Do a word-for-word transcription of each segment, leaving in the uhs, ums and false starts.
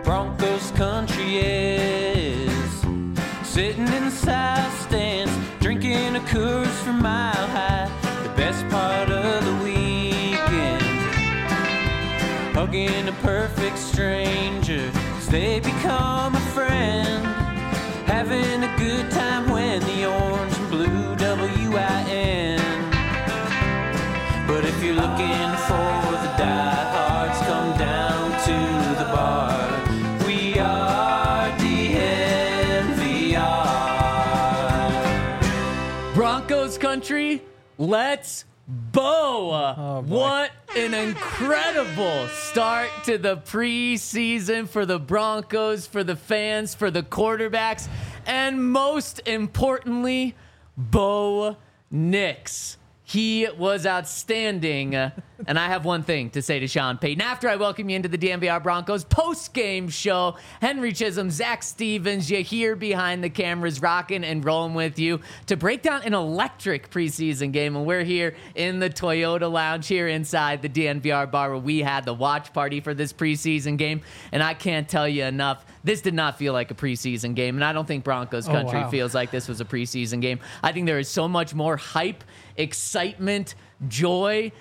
Broncos country is. Sitting in the south stands, drinking a Coors from Mile High. The best part of the weekend, hugging a perfect stranger as they become a friend. Having a good time when the orange and blue W I N. But if you're looking for the diehards, come down to the bar. We are D N V R. Broncos country, let's Bo. Oh, what an incredible start to the preseason for the Broncos, for the fans, for the quarterbacks, and most importantly, Bo Nix. He was outstanding. And I have one thing to say to Sean Payton. After I welcome you into the D N V R Broncos post-game show, Henry Chisholm, Zach Stevens, you here behind the cameras, rocking and rolling with you to break down an electric preseason game. And we're here in the Toyota Lounge here inside the D N V R bar where we had the watch party for this preseason game. And I can't tell you enough, this did not feel like a preseason game. And I don't think Broncos Oh, country wow. feels like this was a preseason game. I think there is so much more hype, excitement, joy,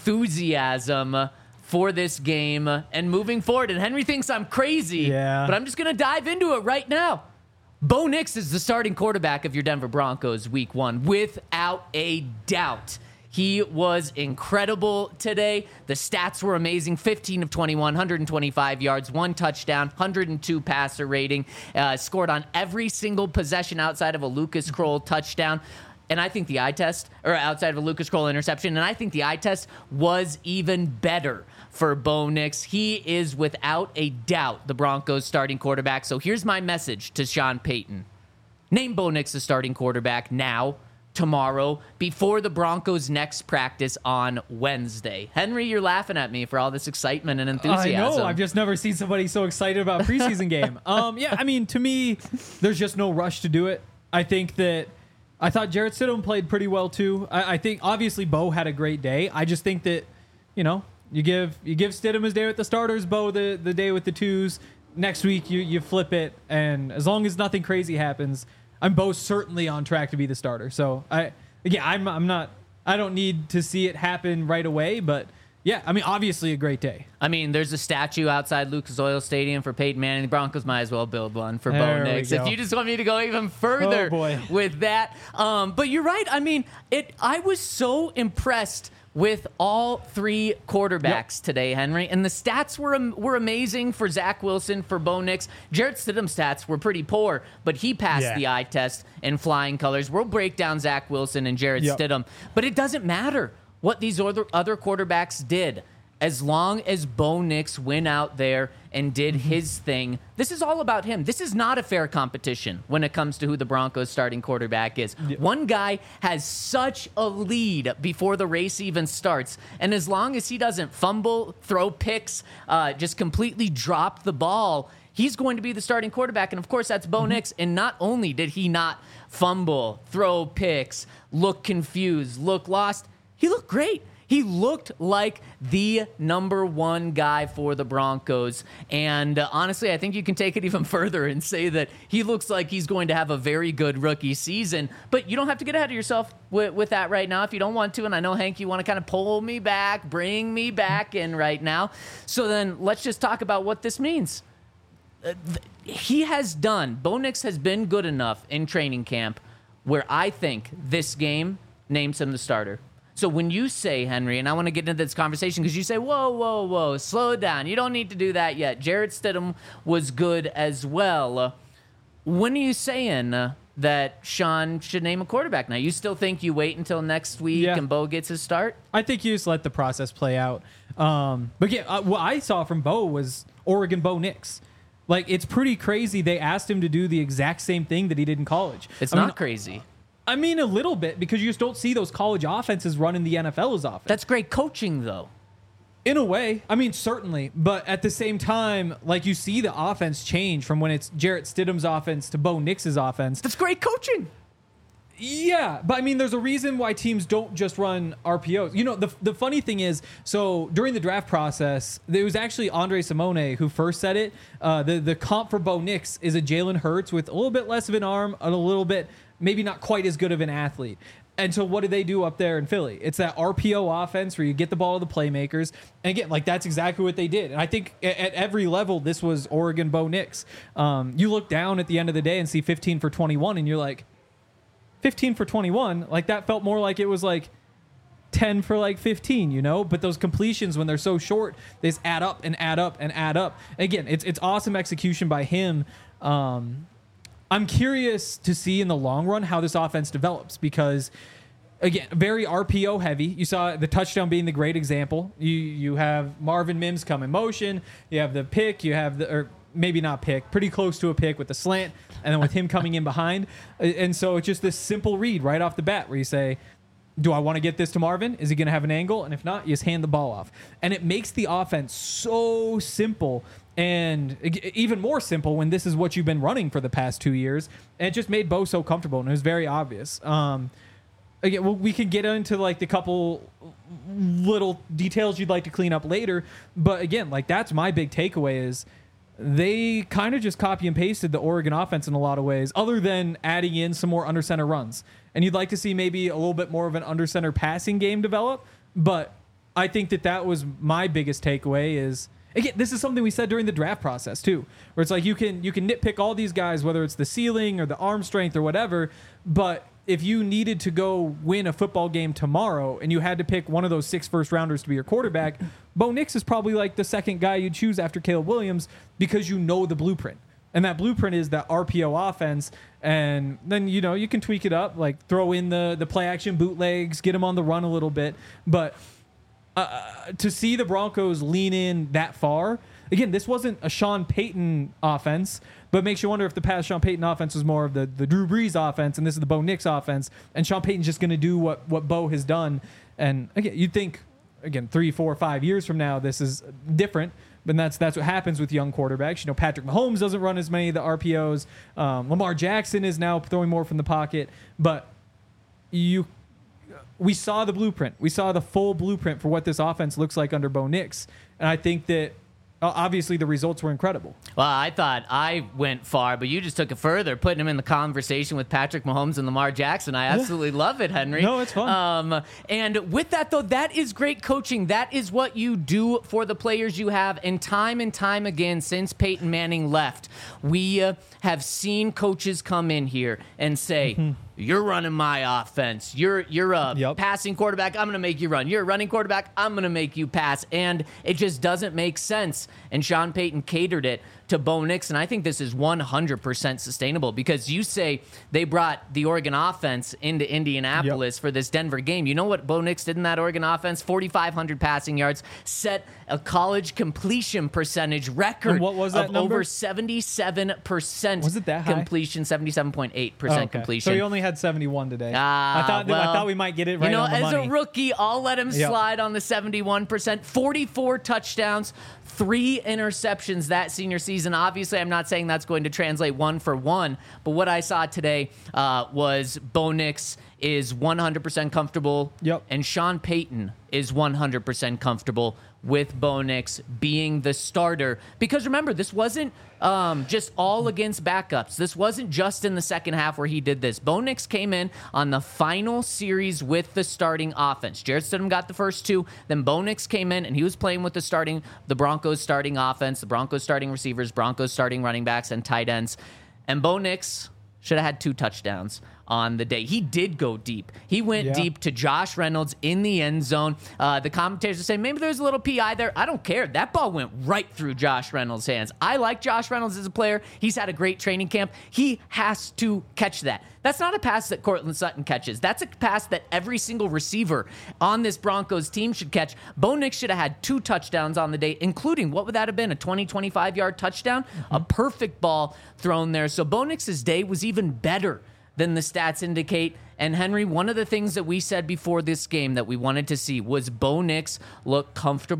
enthusiasm for this game and moving forward. And Henry thinks I'm crazy, Yeah. but I'm just going to dive into it right now. Bo Nix is the starting quarterback of your Denver Broncos week one, without a doubt. He was incredible today. The stats were amazing. fifteen of twenty-one, one hundred twenty-five yards, one touchdown, one hundred two passer rating, uh, scored on every single possession outside of a Lucas Kroll touchdown. And I think the eye test, or outside of a Lucas Kroll interception, and I think the eye test was even better for Bo Nix. He is without a doubt the Broncos starting quarterback. So here's my message to Sean Payton. Name Bo Nix the starting quarterback now, tomorrow, before the Broncos' next practice on Wednesday. Henry, you're laughing at me for all this excitement and enthusiasm. I know. I've just never seen somebody so excited about a preseason game. Um, yeah, I mean, to me, there's just no rush to do it. I think that I thought Jarrett Stidham played pretty well too. I, I think obviously Bo had a great day. I just think that, you know, you give you give Stidham his day with the starters, Bo the, the day with the twos. Next week you you flip it, and as long as nothing crazy happens, I'm Bo certainly on track to be the starter. So I yeah, I'm I'm not I don't need to see it happen right away, but yeah, I mean, obviously a great day. I mean, there's a statue outside Lucas Oil Stadium for Peyton Manning. The Broncos might as well build one for There Bo we Nix. go. If you just want me to go even further Oh, boy. with that. Um, but you're right. I mean, it. I was so impressed with all three quarterbacks today, Henry. And the stats were am- were amazing for Zach Wilson, for Bo Nix. Jarrett Stidham's stats were pretty poor, but he passed Yeah. the eye test in flying colors. We'll break down Zach Wilson and Jarrett Yep. Stidham. But it doesn't matter what these other, other quarterbacks did. As long as Bo Nix went out there and did his thing, this is all about him. This is not a fair competition when it comes to who the Broncos starting quarterback is. One guy has such a lead before the race even starts. And as long as he doesn't fumble, throw picks, uh, just completely drop the ball, he's going to be the starting quarterback. And of course, that's Bo Nix. And not only did he not fumble, throw picks, look confused, look lost, he looked great. He looked like the number one guy for the Broncos. And uh, honestly, I think you can take it even further and say that he looks like he's going to have a very good rookie season. But you don't have to get ahead of yourself with, with that right now if you don't want to. And I know, Hank, you want to kind of pull me back, bring me back in right now. So then let's just talk about what this means. Uh, th- he has done, Bo Nix has been good enough in training camp where I think this game names him the starter. So when you say, Henry, and I want to get into this conversation because you say, whoa, whoa, whoa, slow down. You don't need to do that yet. Jarrett Stidham was good as well. When are you saying uh, that Sean should name a quarterback now? You still think you wait until next week Yeah. and Bo gets his start? I think you just let the process play out. Um, but yeah, uh, what I saw from Bo was Oregon Bo Nix. Like, it's pretty crazy. They asked him to do the exact same thing that he did in college. It's I not mean, crazy. I mean, a little bit, because you just don't see those college offenses run in the N F L as often. That's great coaching, though. In a way. I mean, certainly. But at the same time, like, you see the offense change from when it's Jarrett Stidham's offense to Bo Nix's offense. That's great coaching. Yeah, but I mean, there's a reason why teams don't just run R P Os. You know, the the funny thing is, so during the draft process, there was actually Andre Simone who first said it. Uh, the the comp for Bo Nix is a Jalen Hurts with a little bit less of an arm, and a little bit maybe not quite as good of an athlete. And so what do they do up there in Philly? It's that R P O offense where you get the ball to the playmakers. And again, like that's exactly what they did. And I think at, at every level, this was Oregon Bo Nix. Um, you look down at the end of the day and see fifteen for twenty-one, and you're like, fifteen for twenty-one, like that felt more like it was like ten for like fifteen, you know? But those completions, when they're so short, they just add up and add up and add up. Again, it's it's awesome execution by him. Um, I'm curious to see in the long run how this offense develops because, again, very R P O heavy. You saw the touchdown being the great example. You you have Marvin Mims come in motion. You have the pick. You have the... Or, maybe not pick, pretty close to a pick with the slant, and then with him coming in behind. And so it's just this simple read right off the bat where you say, do I want to get this to Marvin? Is he going to have an angle? And if not, you just hand the ball off. And it makes the offense so simple and even more simple when this is what you've been running for the past two years. And it just made Bo so comfortable, and it was very obvious. Um, again, well, we can get into like the couple little details you'd like to clean up later. But again, like that's my big takeaway is they kind of just copy and pasted the Oregon offense in a lot of ways, other than adding in some more under center runs. And you'd like to see maybe a little bit more of an under center passing game develop. But I think that that was my biggest takeaway is, again, this is something we said during the draft process too, where it's like you can you can nitpick all these guys, whether it's the ceiling or the arm strength or whatever. But if you needed to go win a football game tomorrow and you had to pick one of those six first rounders to be your quarterback, Bo Nix is probably like the second guy you'd choose after Caleb Williams because you know the blueprint. And that blueprint is that R P O offense. And then, you know, you can tweak it up, like throw in the, the play action bootlegs, get him on the run a little bit. But uh, to see the Broncos lean in that far, again, this wasn't a Sean Payton offense, but makes you wonder if the past Sean Payton offense was more of the, the Drew Brees offense, and this is the Bo Nix offense, and Sean Payton's just going to do what, what Bo has done. And again, you'd think, again, three, four, five years from now, this is different, but that's that's what happens with young quarterbacks. You know, Patrick Mahomes doesn't run as many of the R P Os. Um, Lamar Jackson is now throwing more from the pocket, but you... we saw the blueprint. We saw the full blueprint for what this offense looks like under Bo Nix. And I think that obviously the results were incredible. Well, I thought I went far, but you just took it further, putting him in the conversation with Patrick Mahomes and Lamar Jackson. I absolutely love it, Henry. No, it's fun. Um, and with that, though, that is great coaching. That is what you do for the players you have. And time and time again, since Peyton Manning left, we uh, have seen coaches come in here and say, mm-hmm. You're running my offense. You're you're a yep. passing quarterback. I'm going to make you run. You're a running quarterback. I'm going to make you pass. And it just doesn't make sense. And Sean Payton catered it to Bo Nix. And I think this is one hundred percent sustainable because you say they brought the Oregon offense into Indianapolis yep. for this Denver game. You know what Bo Nix did in that Oregon offense? forty-five hundred passing yards, set a college completion percentage record and what was that of number? over seventy-seven percent was it that high? completion, seventy-seven point eight percent oh, okay. completion. So he only had seventy-one today. Uh, I thought well, I thought we might get it right you know, on the as money. a rookie, I'll let him yep. slide on the seventy-one percent. forty-four touchdowns, three interceptions that senior season. Obviously, I'm not saying that's going to translate one for one, but what I saw today uh, was Bo Nix is one hundred percent comfortable, yep. and Sean Payton is one hundred percent comfortable with Bo Nix being the starter. Because remember, this wasn't um, just all against backups. This wasn't just in the second half where he did this. Bo Nix came in on the final series with the starting offense. Jarrett Stidham got the first two. Then Bo Nix came in, and he was playing with the starting, the Broncos starting offense, the Broncos starting receivers, Broncos starting running backs, and tight ends. And Bo Nix should have had two touchdowns on the day. He did go deep. He went yeah. deep to Josh Reynolds in the end zone. Uh, the commentators are saying maybe there's a little P I there. I don't care. That ball went right through Josh Reynolds' hands. I like Josh Reynolds as a player. He's had a great training camp. He has to catch that. That's not a pass that Cortland Sutton catches. That's a pass that every single receiver on this Broncos team should catch. Bo Nix should have had two touchdowns on the day, including, what would that have been, a twenty, twenty-five-yard touchdown? Mm-hmm. A perfect ball thrown there. So Bo Nix's day was even better than the stats indicate. And Henry, one of the things that we said before this game that we wanted to see was Bo Nix look comfortable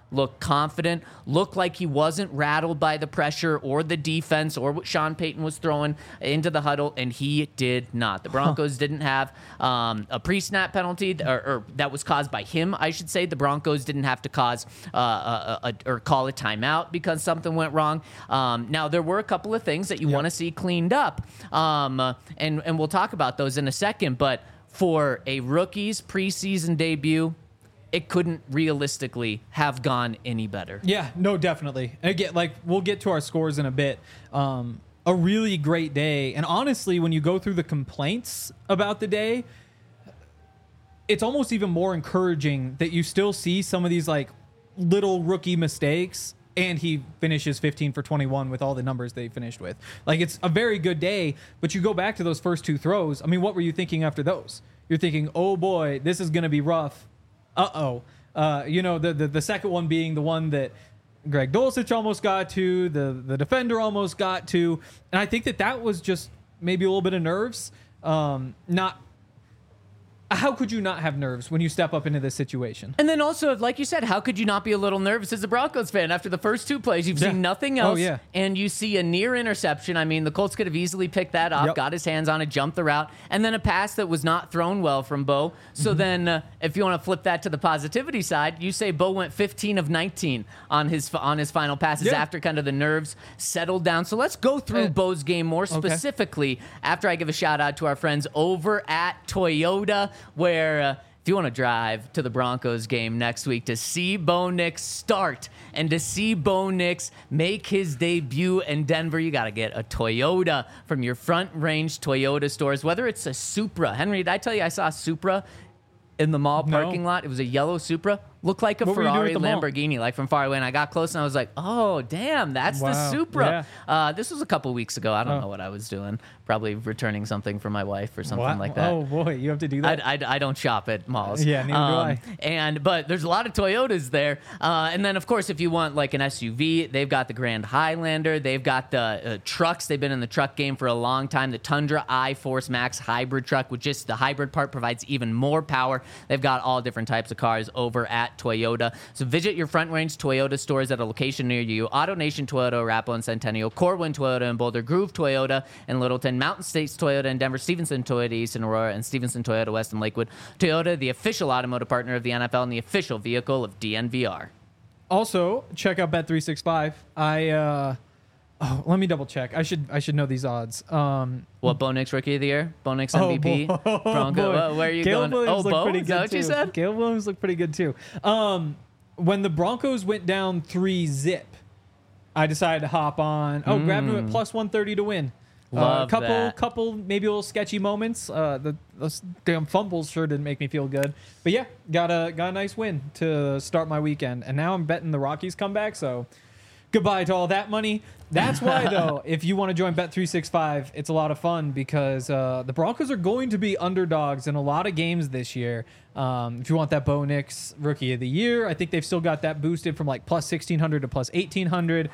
looked confident, looked like he wasn't rattled by the pressure or the defense or what Sean Payton was throwing into the huddle, and he did not. The Broncos huh. didn't have um, a pre-snap penalty, or, or that was caused by him, I should say. The Broncos didn't have to cause uh, a, a, or call a timeout because something went wrong. Um, now, there were a couple of things that you yep. want to see cleaned up, um, uh, and, and we'll talk about those in a second, but for a rookie's preseason debut, it couldn't realistically have gone any better. Yeah, no, definitely. Again, like we'll get to our scores in a bit. Um, a really great day. And honestly, when you go through the complaints about the day, it's almost even more encouraging that you still see some of these like little rookie mistakes, and he finishes fifteen for twenty-one with all the numbers they finished with. Like, it's a very good day, but you go back to those first two throws. I mean, what were you thinking after those? You're thinking, oh boy, this is going to be rough. Uh-oh. Uh, you know, the, the the second one being the one that Greg Dulcich almost got to, the, the defender almost got to. And I think that that was just maybe a little bit of nerves. Um, not How could you not have nerves when you step up into this situation? And then also, like you said, how could you not be a little nervous as a Broncos fan after the first two plays? You've yeah. seen nothing else, oh, yeah. and you see a near interception. I mean, the Colts could have easily picked that off, yep. got his hands on it, jumped the route, and then a pass that was not thrown well from Bo. So mm-hmm. then, uh, if you want to flip that to the positivity side, you say Bo went fifteen of nineteen on his on his final passes yeah. after kind of the nerves settled down. So let's go through uh, Bo's game more specifically okay. after I give a shout out to our friends over at Toyota, where uh, if you want to drive to the Broncos game next week to see Bo Nix start and to see Bo Nix make his debut in Denver, you got to get a Toyota from your Front Range Toyota stores, whether it's a Supra. Henry, did I tell you I saw a Supra in the mall parking no. lot? It was a yellow Supra. Looked like a what Ferrari Lamborghini, like from far away. And I got close and I was like, oh, damn, that's wow. the Supra. Yeah. Uh, this was a couple weeks ago. I don't oh. know what I was doing. Probably returning something for my wife or something what? like that. Oh, boy, you have to do that? I, I, I don't shop at malls. Yeah, neither um, do I. And, but there's a lot of Toyotas there. Uh, and then, of course, if you want like an S U V, they've got the Grand Highlander. They've got the uh, trucks. They've been in the truck game for a long time. The Tundra iForce Max hybrid truck, with just the hybrid part provides even more power. They've got all different types of cars over at Toyota. So visit your Front Range Toyota stores at a location near you. AutoNation Toyota, Arapahoe and Centennial, Corwin Toyota in Boulder, Groove Toyota in Littleton, Mountain States Toyota in Denver, Stevenson Toyota East in Aurora, and Stevenson Toyota West in Lakewood. Toyota, the official automotive partner of the N F L and the official vehicle of D N V R. Also, check out Bet three sixty-five. I uh, oh, let me double check. I should I should know these odds. Um, what, Bo Nix Rookie of the Year? Bo Nix M V P? Oh, bo- Bronco? boy. Uh, where are you Caleb going? Williams Oh, Bo? pretty Is good that what too. you said? Caleb Williams looked pretty good too. Um, when the Broncos went down three zip, I decided to hop on. Oh, mm. grab them at plus one thirty to win. A uh, couple, that. couple, maybe a little sketchy moments. Uh, the those damn fumbles sure didn't make me feel good. But yeah, got a got a nice win to start my weekend, and now I'm betting the Rockies come back. So goodbye to all that money. That's why, though, if you want to join Bet three sixty-five, it's a lot of fun because uh, the Broncos are going to be underdogs in a lot of games this year. Um, if you want that Bo Nix Rookie of the Year, I think they've still got that boosted from like plus sixteen hundred to plus eighteen hundred.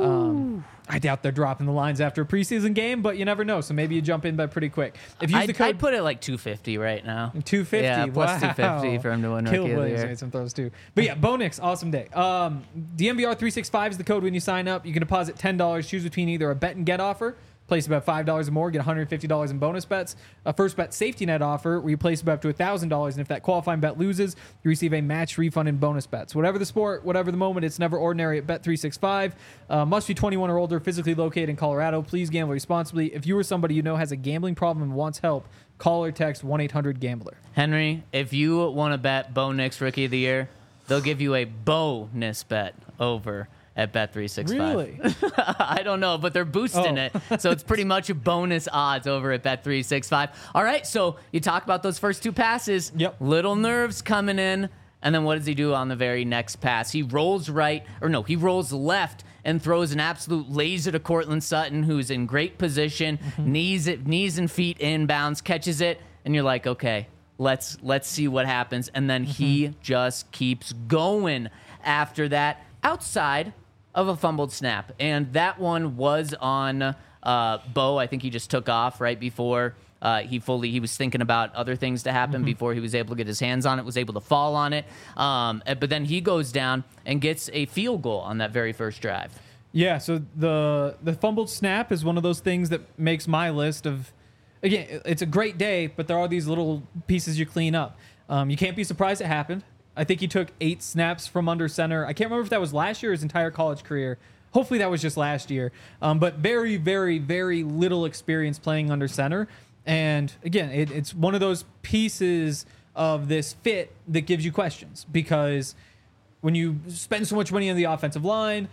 Um, I doubt they're dropping the lines after a preseason game, but you never know. So maybe you jump in bet pretty quick. If you use I'd, the code, I'd put it like two fifty right now. two fifty, Yeah, plus wow. two fifty for him to win Rookie Caleb of the Williams Year. made some throws too. But yeah, Bo Nix, awesome day. Um, D N V R three sixty-five is the code when you sign up. You can deposit ten dollars, choose between either a bet and get offer. Place about five dollars or more, get one hundred fifty dollars in bonus bets. A first bet safety net offer where you place about up to one thousand dollars, and if that qualifying bet loses, you receive a match refund in bonus bets. Whatever the sport, whatever the moment, it's never ordinary at Bet three sixty-five. Uh, must be twenty-one or older, physically located in Colorado. Please gamble responsibly. If you or somebody you know has a gambling problem and wants help, call or text one eight hundred gambler. Henry, if you want to bet Bo Nix Rookie of the Year, they'll give you a bonus bet over at Bet three sixty-five. Really? I don't know, but they're boosting Oh. it. So it's pretty much a bonus odds over at Bet three sixty-five. All right, so you talk about those first two passes. Yep. Little nerves coming in. And then what does he do on the very next pass? He rolls right, or no, he rolls left and throws an absolute laser to Cortland Sutton, who's in great position, mm-hmm. knees it, knees and feet inbounds, catches it, and you're like, okay, let's let's see what happens. And then mm-hmm. he just keeps going after that, outside of a fumbled snap. And that one was on uh, Bo. I think he just took off right before Uh, he fully he was thinking about other things to happen mm-hmm. before he was able to get his hands on it, was able to fall on it. Um, but then he goes down and gets a field goal on that very first drive. Yeah, so the the fumbled snap is one of those things that makes my list of, again, it's a great day, but there are these little pieces you clean up. Um, you can't be surprised it happened. I think he took eight snaps from under center. I can't remember if that was last year or his entire college career. Hopefully that was just last year. Um, but very, very, very little experience playing under center. And again, it, it's one of those pieces of this fit that gives you questions, because when you spend so much money on the offensive line,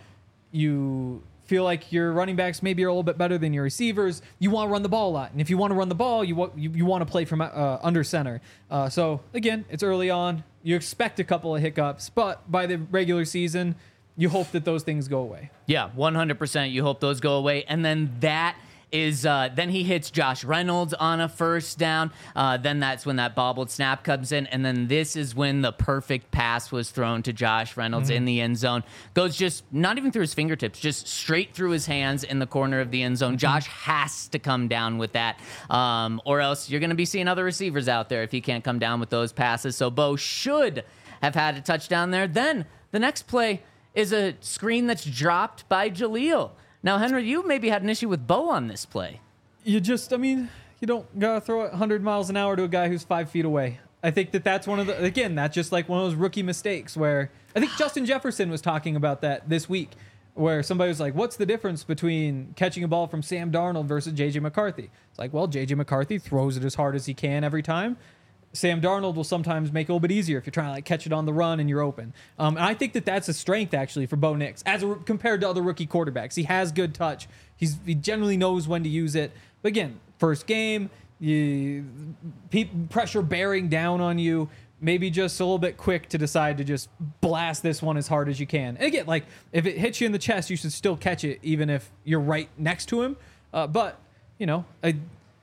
you feel like your running backs maybe are a little bit better than your receivers. You want to run the ball a lot. And if you want to run the ball, you want, you, you want to play from uh, under center. Uh, so again, it's early on. You expect a couple of hiccups, but by the regular season, you hope that those things go away. Yeah, one hundred percent. You hope those go away. And then that is, uh, then he hits Josh Reynolds on a first down. Uh, then that's when that bobbled snap comes in. And then this is when the perfect pass was thrown to Josh Reynolds mm-hmm. in the end zone. Goes just not even through his fingertips, just straight through his hands in the corner of the end zone. Mm-hmm. Josh has to come down with that, um, or else you're going to be seeing other receivers out there if he can't come down with those passes. So Bo should have had a touchdown there. Then the next play is a screen that's dropped by Jaleel. Now, Henry, you maybe had an issue with Bo on this play. You just, I mean, you don't got to throw it one hundred miles an hour to a guy who's five feet away. I think that that's one of the, again, that's just like one of those rookie mistakes where I think Justin Jefferson was talking about that this week, where somebody was like, what's the difference between catching a ball from Sam Darnold versus J J McCarthy? It's like, well, J J McCarthy throws it as hard as he can every time. Sam Darnold will sometimes make it a little bit easier if you're trying to like catch it on the run and you're open. Um, and I think that that's a strength actually for Bo Nix as a, compared to other rookie quarterbacks. He has good touch. He's he generally knows when to use it. But again, first game, you, pe- pressure bearing down on you. Maybe just a little bit quick to decide to just blast this one as hard as you can. And again, like if it hits you in the chest, you should still catch it even if you're right next to him. Uh, but you know, I,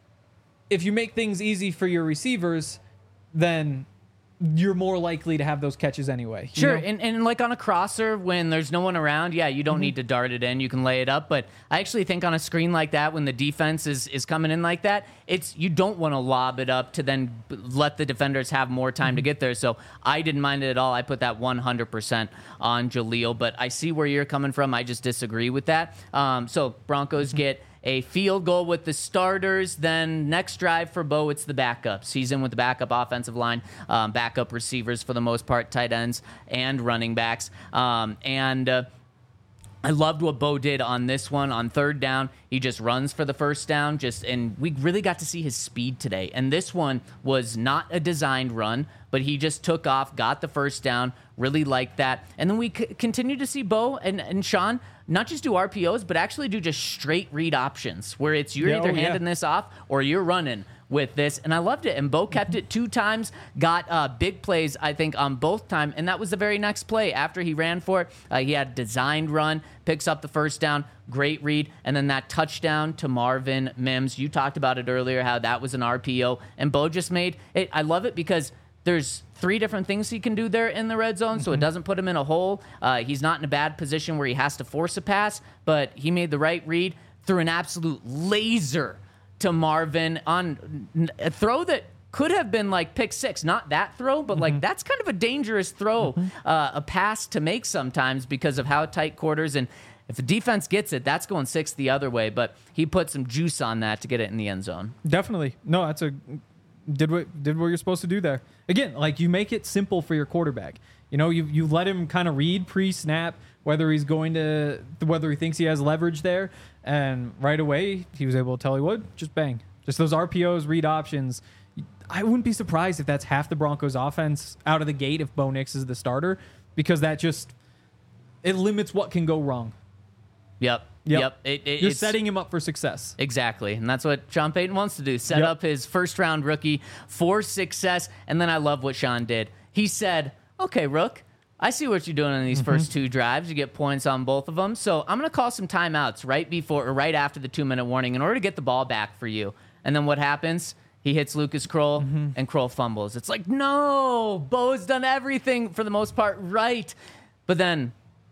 if you make things easy for your receivers, then you're more likely to have those catches anyway. Sure, you know? and, and like on a crosser, when there's no one around, yeah, you don't mm-hmm. need to dart it in. You can lay it up. But I actually think on a screen like that, when the defense is, is coming in like that, it's you don't want to lob it up to then let the defenders have more time mm-hmm. to get there. So I didn't mind it at all. I put that one hundred percent on Jaleel. But I see where you're coming from. I just disagree with that. Um, so Broncos mm-hmm. get a field goal with the starters. Then next drive for Bo, it's the backups. He's in with the backup offensive line, um, backup receivers for the most part, tight ends and running backs. Um, and uh, I loved what Bo did on this one. On third down, he just runs for the first down. Just and we really got to see his speed today. And this one was not a designed run, but he just took off, got the first down, really liked that. And then we c- continue to see Bo and, and Sean not just do R P Os, but actually do just straight read options where it's you're yeah, either oh, handing yeah. this off or you're running with this. And I loved it. And Bo kept it two times, got uh, big plays, I think, on both time. And that was the very next play. After he ran for it, uh, he had a designed run, picks up the first down, great read, and then that touchdown to Marvin Mims. You talked about it earlier, how that was an R P O. And Bo just made it. I love it because there's three different things he can do there in the red zone, so it doesn't put him in a hole. Uh, he's not in a bad position where he has to force a pass, but he made the right read, threw an absolute laser to Marvin on a throw that could have been like pick six. Not that throw, but mm-hmm. like that's kind of a dangerous throw, mm-hmm. uh, a pass to make sometimes because of how tight quarters. And if the defense gets it, that's going six the other way. But he put some juice on that to get it in the end zone. Definitely. No, that's a... Did what did what you're supposed to do there. Again, like you make it simple for your quarterback. You know, you you let him kind of read pre-snap whether he's going to whether he thinks he has leverage there, and right away he was able to tell he would just bang. Just those R P Os, read options. I wouldn't be surprised if that's half the Broncos offense out of the gate if Bo Nix is the starter, because that just it limits what can go wrong. Yep. Yep. yep. It, it, You're it's, setting him up for success. Exactly. And that's what Sean Payton wants to do. Set yep. up his first round rookie for success. And then I love what Sean did. He said, okay, Rook, I see what you're doing on these mm-hmm. first two drives. You get points on both of them. So I'm going to call some timeouts right before or right after the two minute warning in order to get the ball back for you. And then what happens? He hits Lucas Kroll mm-hmm. and Kroll fumbles. It's like, no, Bo's done everything for the most part right. But then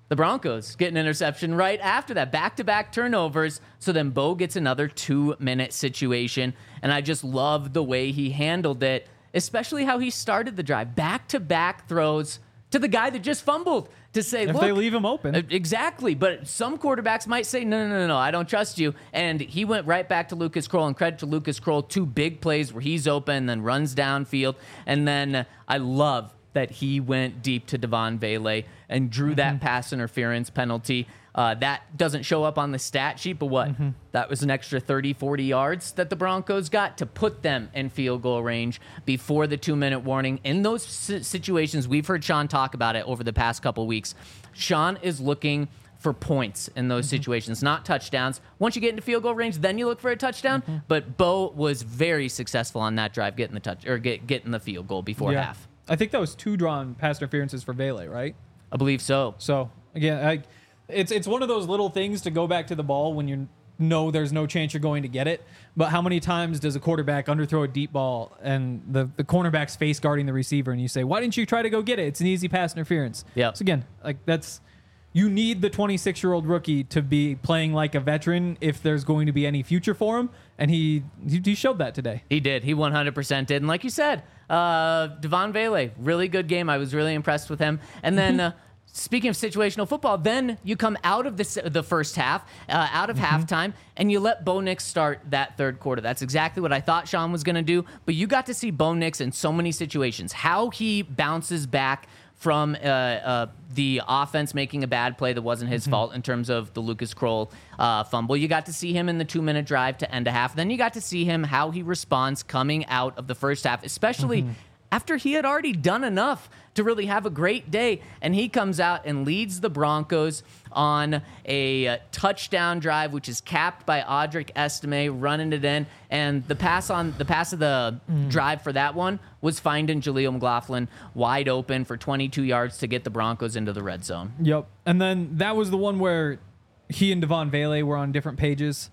The Broncos get an interception right after that. Back-to-back turnovers. So then Bo gets another two-minute situation. And I just love the way he handled it, especially how he started the drive. Back-to-back throws to the guy that just fumbled to say, If look. they leave him open. Exactly. But some quarterbacks might say, no, no, no, no, I don't trust you. And he went right back to Lucas Kroll. And credit to Lucas Kroll, two big plays where he's open, then runs downfield. And then uh, I love that he went deep to Devon Vele and drew mm-hmm. that pass interference penalty. Uh, that doesn't show up on the stat sheet, but what? Mm-hmm. That was an extra thirty, forty yards that the Broncos got to put them in field goal range before the two-minute warning. In those situations, we've heard Sean talk about it over the past couple weeks. Sean is looking for points in those mm-hmm. situations, not touchdowns. Once you get into field goal range, then you look for a touchdown. Mm-hmm. But Bo was very successful on that drive, getting the touch or get, getting the field goal before yeah. half. I think that was two drawn pass interferences for Vele, right? I believe so. So, again, I, it's it's one of those little things to go back to the ball when you know there's no chance you're going to get it. But how many times does a quarterback underthrow a deep ball and the, the cornerback's face guarding the receiver and you say, why didn't you try to go get it? It's an easy pass interference. Yeah. So, again, like that's you need the twenty-six-year-old rookie to be playing like a veteran if there's going to be any future for him. And he he showed that today. He did. He one hundred percent did. And like you said, uh, Devon Vele, really good game. I was really impressed with him. And then uh, speaking of situational football, then you come out of the, the first half, uh, out of mm-hmm. halftime, and you let Bo Nix start that third quarter. That's exactly what I thought Sean was going to do. But you got to see Bo Nix in so many situations, how he bounces back from uh, uh, the offense making a bad play that wasn't his mm-hmm. fault in terms of the Lucas Kroll uh, fumble. You got to see him in the two-minute drive to end a half. Then you got to see him, how he responds coming out of the first half, especially mm-hmm. after he had already done enough to really have a great day. And he comes out and leads the Broncos on a uh, touchdown drive, which is capped by Audric Estime running it in. And the pass on the pass of the mm. drive for that one was finding Jaleel McLaughlin wide open for twenty-two yards to get the Broncos into the red zone. Yep. And then that was the one where he and Devon Vele were on different pages,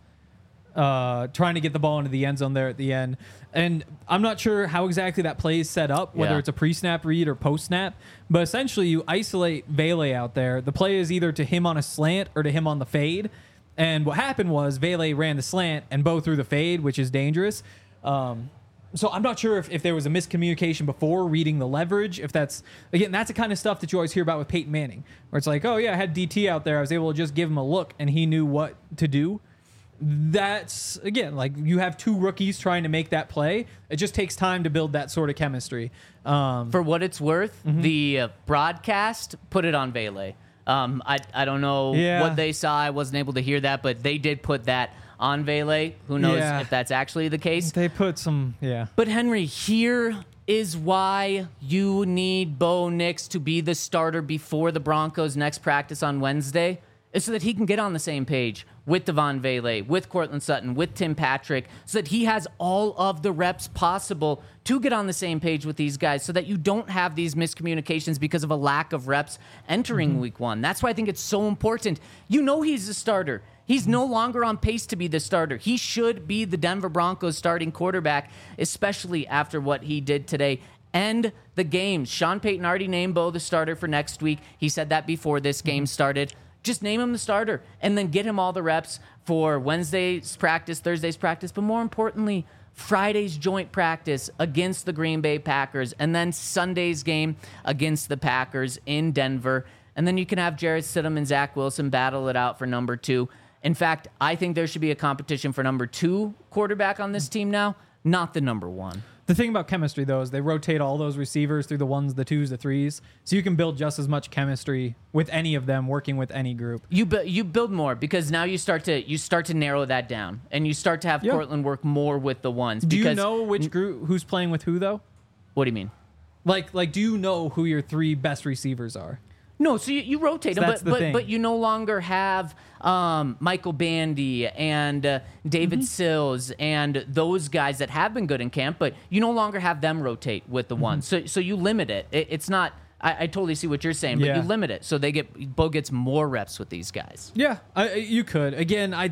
uh, trying to get the ball into the end zone there at the end. And I'm not sure how exactly that play is set up, whether yeah. it's a pre-snap read or post-snap. But essentially, you isolate Vele out there. The play is either to him on a slant or to him on the fade. And what happened was Vele ran the slant and Bo threw the fade, which is dangerous. Um, so I'm not sure if, if there was a miscommunication before reading the leverage. If that's, again, that's the kind of stuff that you always hear about with Peyton Manning, where it's like, oh, yeah, I had D T out there. I was able to just give him a look, and he knew what to do. That's, again, like you have two rookies trying to make that play. It just takes time to build that sort of chemistry. Um, For what it's worth, mm-hmm. the uh, broadcast put it on Vele. Um, I I don't know yeah. what they saw. I wasn't able to hear that, but they did put that on Vele. Who knows yeah. if that's actually the case? They put some, yeah. But Henry, here is why you need Bo Nix to be the starter before the Broncos' next practice on Wednesday, is so that he can get on the same page with Devon Vele, with Courtland Sutton, with Tim Patrick, so that he has all of the reps possible to get on the same page with these guys, so that you don't have these miscommunications because of a lack of reps entering mm-hmm. week one. That's why I think it's so important. You know he's a starter. He's mm-hmm. no longer on pace to be the starter. He should be the Denver Broncos starting quarterback, especially after what he did today. End the games. Sean Payton already named Bo the starter for next week. He said that before this game mm-hmm. started. Just name him the starter and then get him all the reps for Wednesday's practice, Thursday's practice, but more importantly, Friday's joint practice against the Green Bay Packers, and then Sunday's game against the Packers in Denver. And then you can have Jarrett Stidham and Zach Wilson battle it out for number two. In fact, I think there should be a competition for number two quarterback on this team now, not the number one. The thing about chemistry, though, is they rotate all those receivers through the ones, the twos, the threes, so you can build just as much chemistry with any of them working with any group. You bu- you build more because now you start to you start to narrow that down, and you start to have yeah. Courtland work more with the ones. Do because, you know which group who's playing with who, though? What do you mean? Like like, do you know who your three best receivers are? No, so you, you rotate so them, but but but, thing. but you no longer have um, Michael Bandy and uh, David mm-hmm. Sills and those guys that have been good in camp, but you no longer have them rotate with the mm-hmm. ones. So so you limit it. it it's not. I, I totally see what you're saying, but yeah. you limit it so they get Bo gets more reps with these guys. Yeah, I, you could. Again, I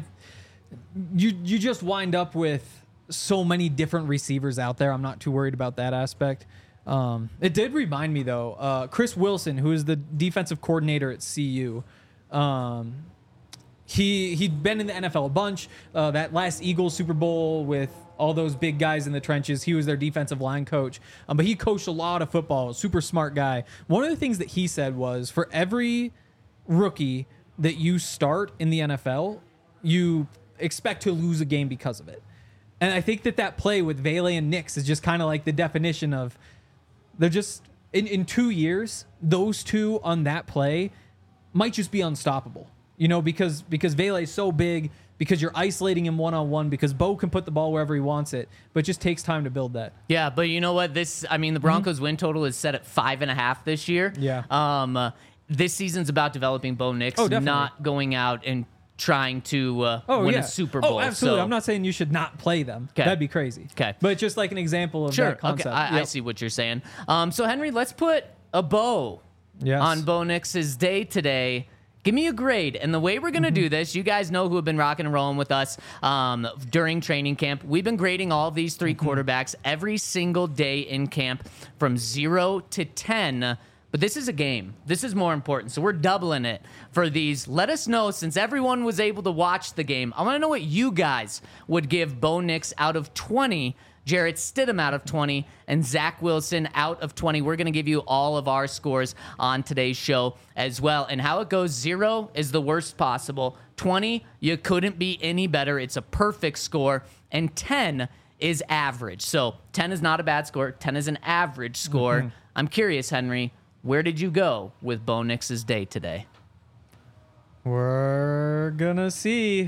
you you just wind up with so many different receivers out there. I'm not too worried about that aspect. Um, it did remind me though, uh, Chris Wilson, who is the defensive coordinator at C U. Um, he he'd been in the N F L a bunch. Uh, that last Eagles Super Bowl with all those big guys in the trenches, he was their defensive line coach. Um, but he coached a lot of football. Super smart guy. One of the things that he said was, for every rookie that you start in the N F L, you expect to lose a game because of it. And I think that that play with Vele and Nix is just kind of like the definition of, they're just, in, in two years, those two on that play might just be unstoppable. You know, because because Vele is so big, because you're isolating him one-on-one, because Bo can put the ball wherever he wants it, but it just takes time to build that. Yeah, but you know what? This, I mean, the Broncos' mm-hmm. win total is set at five and a half this year. Yeah. Um, uh, this season's about developing Bo Nix, oh, not going out and trying to uh, oh, win yeah. a Super Bowl. Oh, absolutely. So, I'm not saying you should not play them. Kay. That'd be crazy. Okay. But just like an example of sure. that concept. Okay. I, yep. I see what you're saying. Um, so, Henry, let's put a bow yes. on Bo Nix's day today. Give me a grade. And the way we're going to mm-hmm. do this, you guys know who have been rocking and rolling with us um, during training camp. We've been grading all of these three mm-hmm. quarterbacks every single day in camp from zero to ten. But this is a game. This is more important. So we're doubling it for these. Let us know, since everyone was able to watch the game, I want to know what you guys would give Bo Nix out of twenty, Jarrett Stidham out of twenty, and Zach Wilson out of twenty. We're going to give you all of our scores on today's show as well. And how it goes, zero is the worst possible. twenty, you couldn't be any better. It's a perfect score. And ten is average. So ten is not a bad score. ten is an average score. Mm-hmm. I'm curious, Henry, where did you go with Bo Nix's day today? We're gonna see.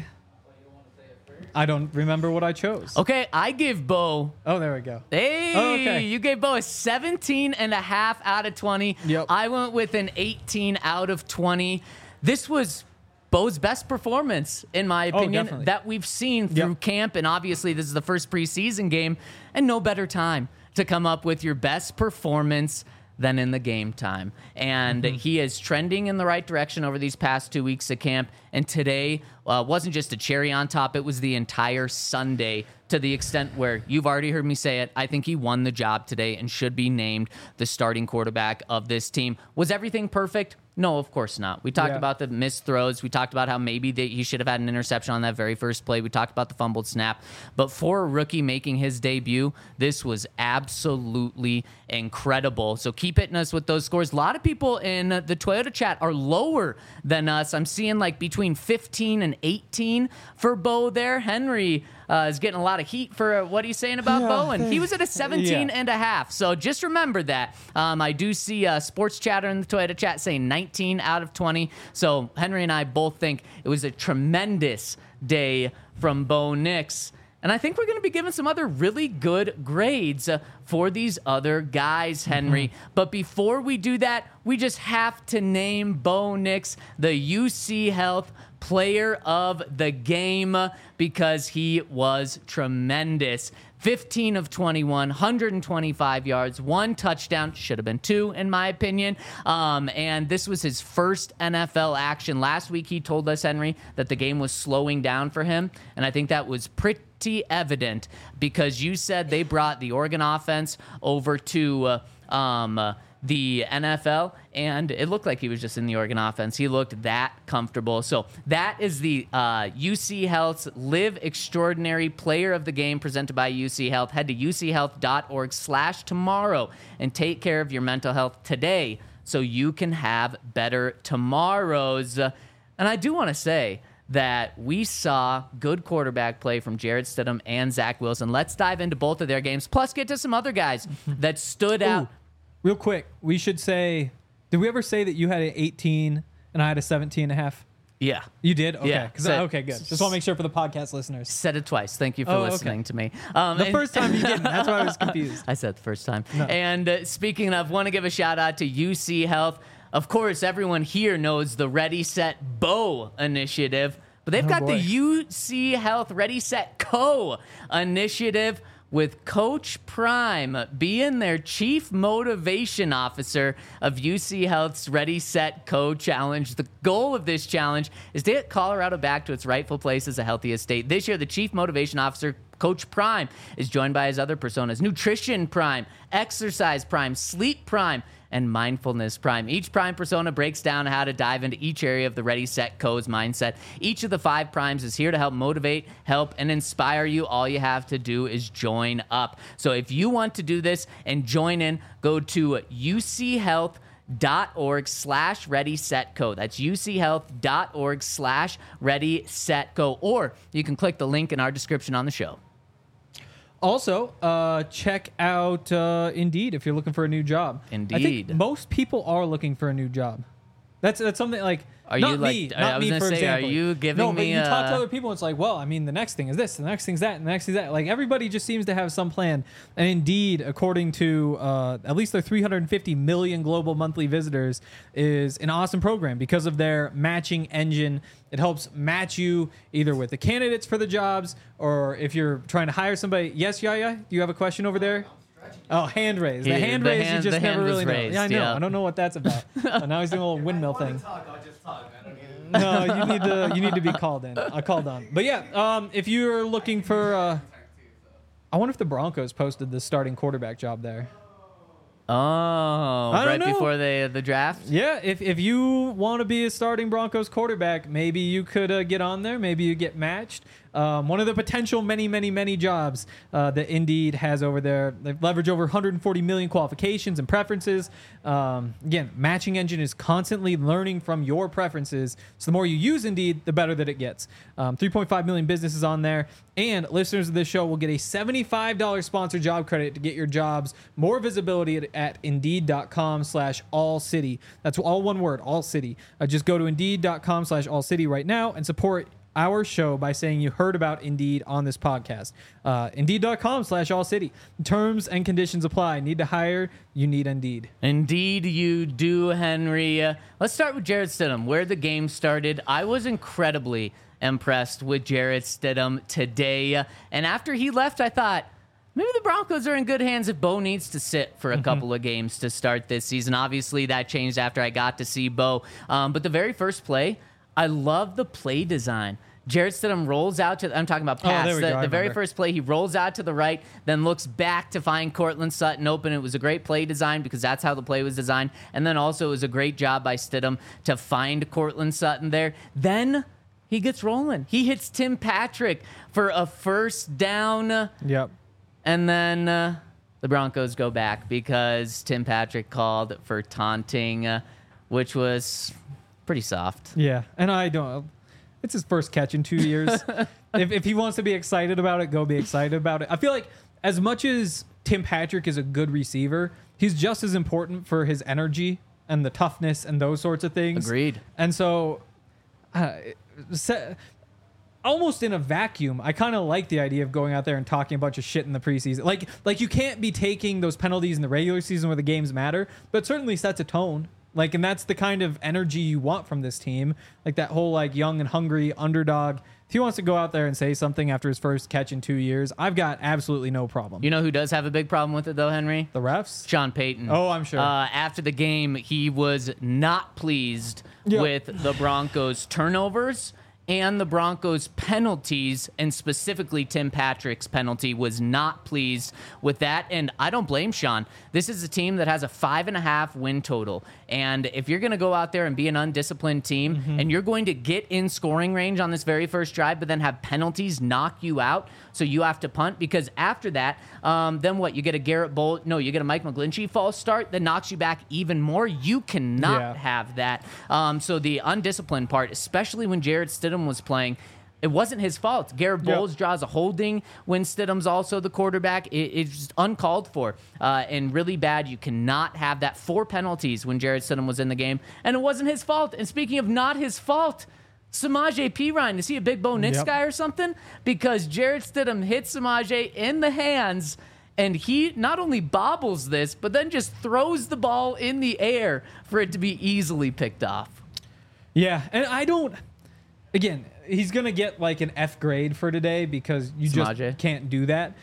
I don't remember what I chose. Okay, I give Bo. Oh, there we go. Hey, oh, okay. You gave Bo a seventeen and a half out of twenty. Yep. I went with an eighteen out of twenty. This was Bo's best performance, in my opinion, oh, that we've seen through yep. camp. And obviously, this is the first preseason game, and no better time to come up with your best performance than in the game time. And mm-hmm. he is trending in the right direction over these past two weeks of camp. And today uh, wasn't just a cherry on top. It was the entire Sunday, to the extent where you've already heard me say it. I think he won the job today and should be named the starting quarterback of this team. Was everything perfect? No, of course not. We talked yeah. about the missed throws. We talked about how maybe they, he should have had an interception on that very first play. We talked about the fumbled snap. But for a rookie making his debut, this was absolutely incredible. So keep hitting us with those scores. A lot of people in the Toyota chat are lower than us. I'm seeing like between fifteen and eighteen for Bo there. Henry uh, is getting a lot of heat for uh, what he's saying about yeah, Bo, and he was at a seventeen yeah. and a half. So just remember that. Um, I do see uh, Sports Chatter in the Toyota chat saying nineteen out of twenty. So Henry and I both think it was a tremendous day from Bo Nix. And I think we're going to be giving some other really good grades uh, for these other guys, Henry. Mm-hmm. But before we do that, we just have to name Bo Nix the U C Health Player of the Game, because he was tremendous. fifteen of twenty-one, one hundred twenty-five yards, one touchdown. Should have been two, in my opinion. Um, and this was his first N F L action. Last week, he told us, Henry, that the game was slowing down for him. And I think that was pretty evident, because you said they brought the Oregon offense over to uh, um, uh, the N F L, and it looked like he was just in the Oregon offense. He looked that comfortable. So that is the uh, U C Health's Live Extraordinary Player of the Game, presented by U C Health. Head to U C health dot org slash tomorrow and take care of your mental health today so you can have better tomorrows. And I do want to say that we saw good quarterback play from Jarrett Stidham and Zach Wilson. Let's dive into both of their games, plus get to some other guys that stood Ooh. out. Real quick, we should say, did we ever say that you had an eighteen and I had a seventeen and a half? Yeah. You did? Okay. Yeah. 'Cause Said- I- okay, good. Just want to make sure for the podcast listeners. Said it twice. Thank you for Oh, okay. listening to me. Um, The and- first time you didn't. That's why I was confused. I said the first time. No. And uh, speaking of, want to give a shout out to U C Health. Of course, everyone here knows the Ready, Set, Bo initiative, but they've Oh, got boy. the U C Health Ready, Set, Co initiative, with Coach Prime being their chief motivation officer of U C Health's Ready, Set, Go challenge. The goal of this challenge is to get Colorado back to its rightful place as a healthiest state. This year, the chief motivation officer, Coach Prime, is joined by his other personas: Nutrition Prime, Exercise Prime, Sleep Prime, and Mindfulness Prime. Each Prime persona breaks down how to dive into each area of the Ready, Set, Go's mindset. Each of the five Primes is here to help motivate, help, and inspire you. All you have to do is join up. So if you want to do this and join in, go to U C Health dot org slash ready set go. That's U C Health dot org slash ready set go. Or you can click the link in our description on the show. Also, uh, check out uh, Indeed if you're looking for a new job. Indeed. I think most people are looking for a new job. That's that's something like Are not you like? me, I not was me gonna for say, example. are you giving no, but me? you talk to a- other people, and it's like, well, I mean, the next thing is this, the next thing's that, and the next thing's that. Like everybody just seems to have some plan. And Indeed, according to uh, at least their three hundred fifty million global monthly visitors, is an awesome program because of their matching engine. It helps match you either with the candidates for the jobs, or if you're trying to hire somebody. Yes, Yaya, do you have a question over there? Oh, hand raise. The He- hand the raise, hand- you just the hand never was really know. raised, Yeah, I know. yeah. I don't know what that's about. So now he's doing a little windmill thing. Talk, I'll just talk. I don't need it. No, you need to you need to be called in. I called on. But yeah, um, if you're looking for, uh, I wonder if the Broncos posted the starting quarterback job there. Oh, I don't right know. before the the draft. Yeah, if if you want to be a starting Broncos quarterback, maybe you could uh, get on there. Maybe you get matched. Um, one of the potential many, many, many jobs uh, that Indeed has over there. They've leveraged over one hundred forty million qualifications and preferences. Um, again, matching engine is constantly learning from your preferences. So the more you use Indeed, the better that it gets. Um, three point five million businesses on there. And listeners of this show will get a seventy-five dollars sponsored job credit to get your jobs more visibility at, at indeed.com slash all city. That's all one word, all city. Uh, just go to indeed.com slash all city right now and support our show by saying you heard about Indeed on this podcast. Uh, Indeed.com slash all city. Terms and conditions apply. Need to hire? You need Indeed. Indeed, you do, Henry. Uh, let's start with Jarrett Stidham, where the game started. I was incredibly impressed with Jarrett Stidham today. Uh, and after he left, I thought, maybe the Broncos are in good hands if Bo needs to sit for a couple of games to start this season. Obviously, that changed after I got to see Bo. Um, but the very first play, I love the play design. Jarrett Stidham rolls out to, I'm talking about Oh, pass. there we the go. I the very remember. first play, he rolls out to the right, then looks back to find Cortland Sutton open. It was a great play design because that's how the play was designed. And then also it was a great job by Stidham to find Cortland Sutton there. Then he gets rolling. He hits Tim Patrick for a first down. Yep. And then uh, the Broncos go back because Tim Patrick called for taunting, uh, which was pretty soft. Yeah. And I don't. It's his first catch in two years. if, if he wants to be excited about it, go be excited about it. I feel like as much as Tim Patrick is a good receiver, he's just as important for his energy and the toughness and those sorts of things. Agreed. And so, uh, se- almost in a vacuum, I kind of like the idea of going out there and talking a bunch of shit in the preseason. Like, like you can't be taking those penalties in the regular season where the games matter, but it certainly sets a tone. Like, and that's the kind of energy you want from this team. Like that whole like young and hungry underdog. If he wants to go out there and say something after his first catch in two years, I've got absolutely no problem. You know who does have a big problem with it, though, Henry? The refs? Sean Payton. Oh, I'm sure. Uh, after the game, he was not pleased Yeah. with the Broncos' turnovers and the Broncos' penalties, and specifically Tim Patrick's penalty, was not pleased with that. And I don't blame Sean. This is a team that has a five and a half win total. And if you're going to go out there and be an undisciplined team Mm-hmm. and you're going to get in scoring range on this very first drive, but then have penalties knock you out, so you have to punt, because after that, um, then what? You get a Garrett Bolt, no, you get a Mike McGlinchey false start that knocks you back even more. You cannot Yeah. have that. Um, so the undisciplined part, especially when Jarrett Stidham was playing, it wasn't his fault. Garrett Yep. Bowles draws a holding when Stidham's also the quarterback. It, it's just uncalled for uh, and really bad. You cannot have that. Four penalties when Jarrett Stidham was in the game, and it wasn't his fault. And speaking of not his fault, Samaje Perine, is he a big Bo Nix Yep. guy or something? Because Jarrett Stidham hit Samaje in the hands, and he not only bobbles this, but then just throws the ball in the air for it to be easily picked off. Yeah, and I don't. Again, he's gonna get like an F grade for today because you Samaje. just can't do that.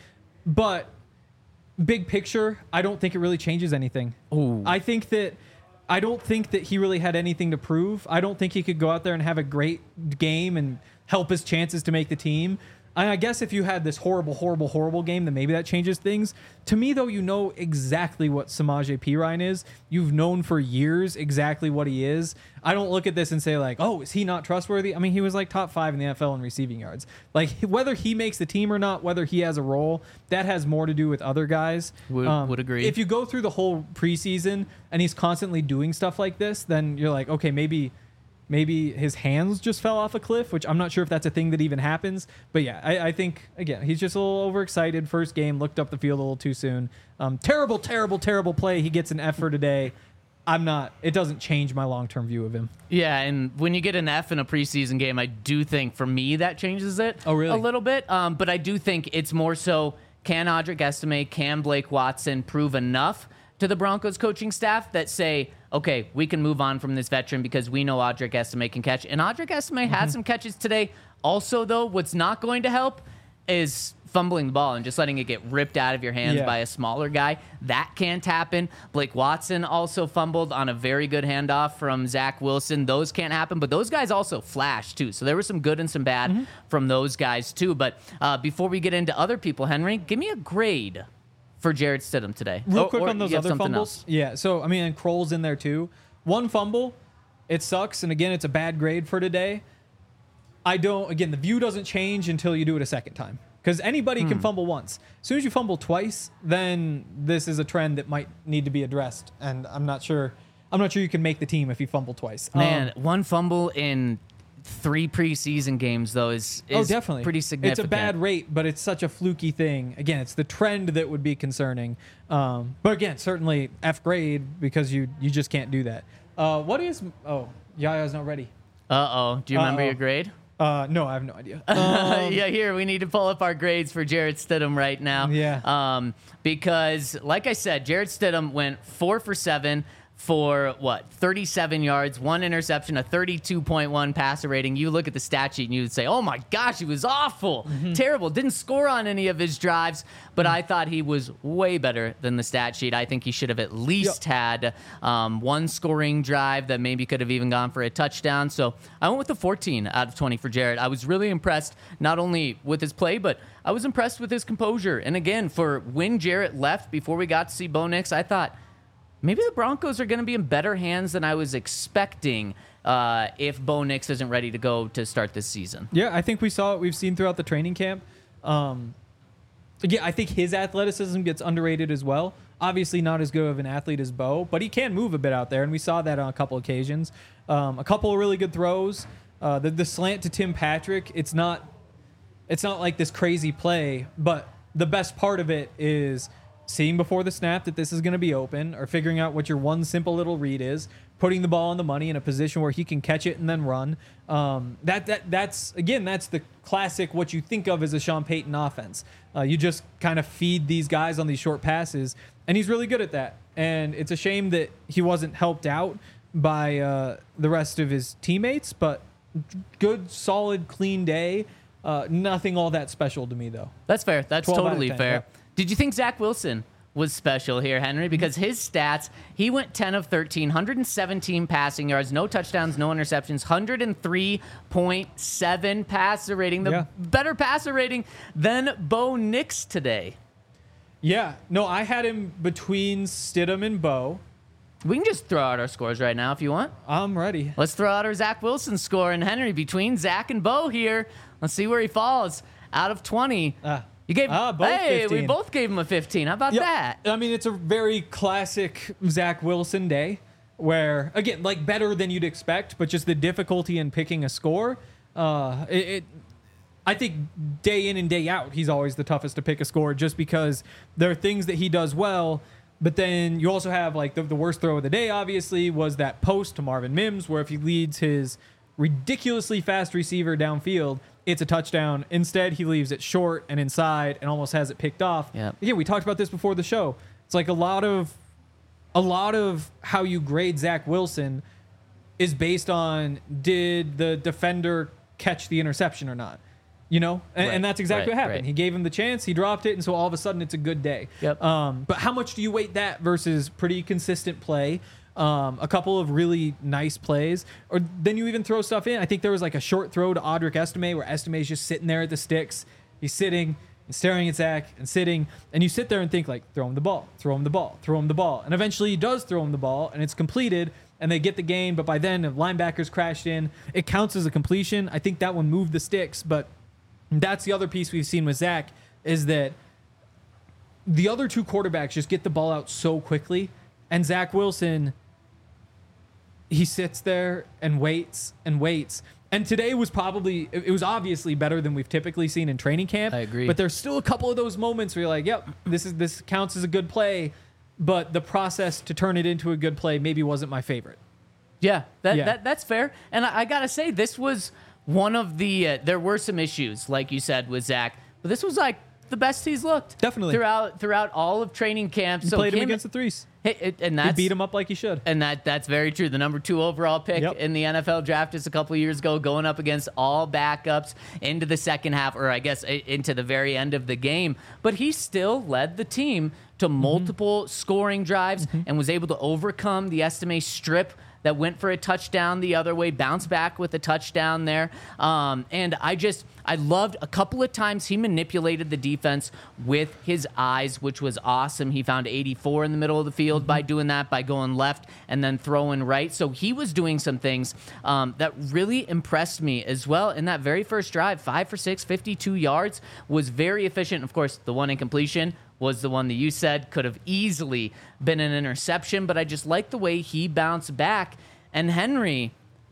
but big picture, I don't think it really changes anything. Ooh. I think that I don't think that he really had anything to prove. I don't think he could go out there and have a great game and help his chances to make the team. And I guess if you had this horrible, horrible, horrible game, then maybe that changes things. To me, though, you know exactly what Samaje Perine is. You've known for years exactly what he is. I don't look at this and say, like, oh, is he not trustworthy? I mean, he was like top five in the N F L in receiving yards. Like, whether he makes the team or not, whether he has a role, that has more to do with other guys. Would, Um, would agree. If you go through the whole preseason and he's constantly doing stuff like this, then you're like, okay, maybe... Maybe his hands just fell off a cliff, which I'm not sure if that's a thing that even happens. But yeah, I, I think, again, he's just a little overexcited. First game, looked up the field a little too soon. Um, terrible, terrible, terrible play. He gets an F for today. I'm not, it doesn't change my long-term view of him. Yeah, and when you get an F in a preseason game, I do think, for me, that changes it Oh, really? a little bit. Um, but I do think it's more so, can Audric Estime, can Blake Watson prove enough to the Broncos coaching staff that say, okay, we can move on from this veteran because we know Audric Estime can catch. And Audric Estime Mm-hmm. had some catches today. Also, though, what's not going to help is fumbling the ball and just letting it get ripped out of your hands Yeah. by a smaller guy. That can't happen. Blake Watson also fumbled on a very good handoff from Zach Wilson. Those can't happen, but those guys also flashed too. So there was some good and some bad Mm-hmm. from those guys too. But uh, before we get into other people, Henry, give me a grade for Jarrett Stidham today. Real Or- quick or on those you have other something fumbles. else. Yeah, so, I mean, and Kroll's in there too. One fumble, it sucks. And again, it's a bad grade for today. I don't, again, the view doesn't change until you do it a second time. Because anybody Hmm. can fumble once. As soon as you fumble twice, then this is a trend that might need to be addressed. And I'm not sure, I'm not sure you can make the team if you fumble twice. Man, Um, one fumble in three preseason games, though, is, is oh, definitely. pretty significant. It's a bad rate, but it's such a fluky thing. Again, it's the trend that would be concerning. Um, but again, certainly F grade because you you just can't do that. Uh, what is? Oh, Yaya's not ready. Uh-oh. Do you remember Uh-oh. your grade? Uh, no, I have no idea. Um, yeah, here, we need to pull up our grades for Jarrett Stidham right now. Yeah. Um, because, like I said, Jarrett Stidham went four for seven for, what, thirty-seven yards, one interception, a thirty-two point one passer rating. You look at the stat sheet and you would say, oh, my gosh, he was awful. Mm-hmm. Terrible. Didn't score on any of his drives, but I thought he was way better than the stat sheet. I think he should have at least had um, one scoring drive that maybe could have even gone for a touchdown. So I went with the fourteen out of twenty for Jarrett. I was really impressed not only with his play, but I was impressed with his composure. And again, for when Jarrett left before we got to see Bo Nix, I thought maybe the Broncos are going to be in better hands than I was expecting uh, if Bo Nix isn't ready to go to start this season. Yeah, I think we saw it. We've seen throughout the training camp. Um, again, I think his athleticism gets underrated as well. Obviously, not as good of an athlete as Bo, but he can move a bit out there, and we saw that on a couple occasions. Um, a couple of really good throws. Uh, the the slant to Tim Patrick. It's not. It's not like this crazy play, but the best part of it is seeing before the snap that this is going to be open, or figuring out what your one simple little read is, putting the ball on the money in a position where he can catch it and then run. Um, that that that's again, that's the classic what you think of as a Sean Payton offense. Uh, you just kind of feed these guys on these short passes, and he's really good at that. And it's a shame that he wasn't helped out by uh, the rest of his teammates, but good, solid, clean day. Uh, nothing all that special to me, though. That's fair. That's twelve out of totally ten, fair. yeah. Did you think Zach Wilson was special here, Henry? Because his stats, he went ten of thirteen, one hundred seventeen passing yards, no touchdowns, no interceptions, one hundred three point seven passer rating, the Yeah. better passer rating than Bo Nix today. Yeah. No, I had him between Stidham and Bo. We can just throw out our scores right now if you want. I'm ready. Let's throw out our Zach Wilson score. And Henry, between Zach and Bo here, let's see where he falls. Out of twenty. Ah. You gave Ah, both Hey, we fifteen. both gave him a fifteen. How about that? I mean, it's a very classic Zach Wilson day where, again, like better than you'd expect, but just the difficulty in picking a score. Uh, it, it I think day in and day out, he's always the toughest to pick a score just because there are things that he does well. But then you also have like the, the worst throw of the day, obviously, was that post to Marvin Mims, where if he leads his ridiculously fast receiver downfield, it's a touchdown. Instead, he leaves it short and inside and almost has it picked off. Yeah. Again, we talked about this before the show. It's like a lot of a lot of how you grade Zach Wilson is based on did the defender catch the interception or not. You know, and, Right, and that's exactly right, what happened. right. He gave him the chance, he dropped it, and so all of a sudden it's a good day. Yep. Um, but how much do you weight that versus pretty consistent play, um, a couple of really nice plays, or then you even throw stuff in? I think there was like a short throw to Audric Estime where Estime is just sitting there at the sticks. He's sitting and staring at Zach and sitting, and you sit there and think like, throw him the ball, throw him the ball, throw him the ball, and eventually he does throw him the ball, and it's completed. And they get the gain, but by then the linebackers crashed in. It counts as a completion. I think that one moved the sticks, but that's the other piece we've seen with Zach is that the other two quarterbacks just get the ball out so quickly, and Zach Wilson, he sits there and waits and waits. And today was probably, it was obviously better than we've typically seen in training camp. I agree. But there's still a couple of those moments where you're like, yep, this is this counts as a good play. But the process to turn it into a good play maybe wasn't my favorite. Yeah, that, Yeah. that that's fair. And I, I gotta say, this was one of the. Uh, there were some issues, like you said, with Zach, but this was like the best he's looked Definitely. throughout throughout all of training camp. He So played him him- against the threes. Hey, it- and He that's beat him up like he should. And that that's very true. The number two overall pick Yep. in the N F L draft just a couple of years ago, going up against all backups into the second half, or I guess i- into the very end of the game. But he still led the team to multiple scoring drives and was able to overcome the Estime strip that went for a touchdown the other way, bounce back with a touchdown there. Um, and I just, I loved a couple of times he manipulated the defense with his eyes, which was awesome. He found eighty-four in the middle of the field by doing that, by going left and then throwing right. So he was doing some things um, that really impressed me as well in that very first drive. Five for six, fifty-two yards, was very efficient. Of course, the one incompletion was the one that you said could have easily been an interception, but I just like the way he bounced back. And Henry,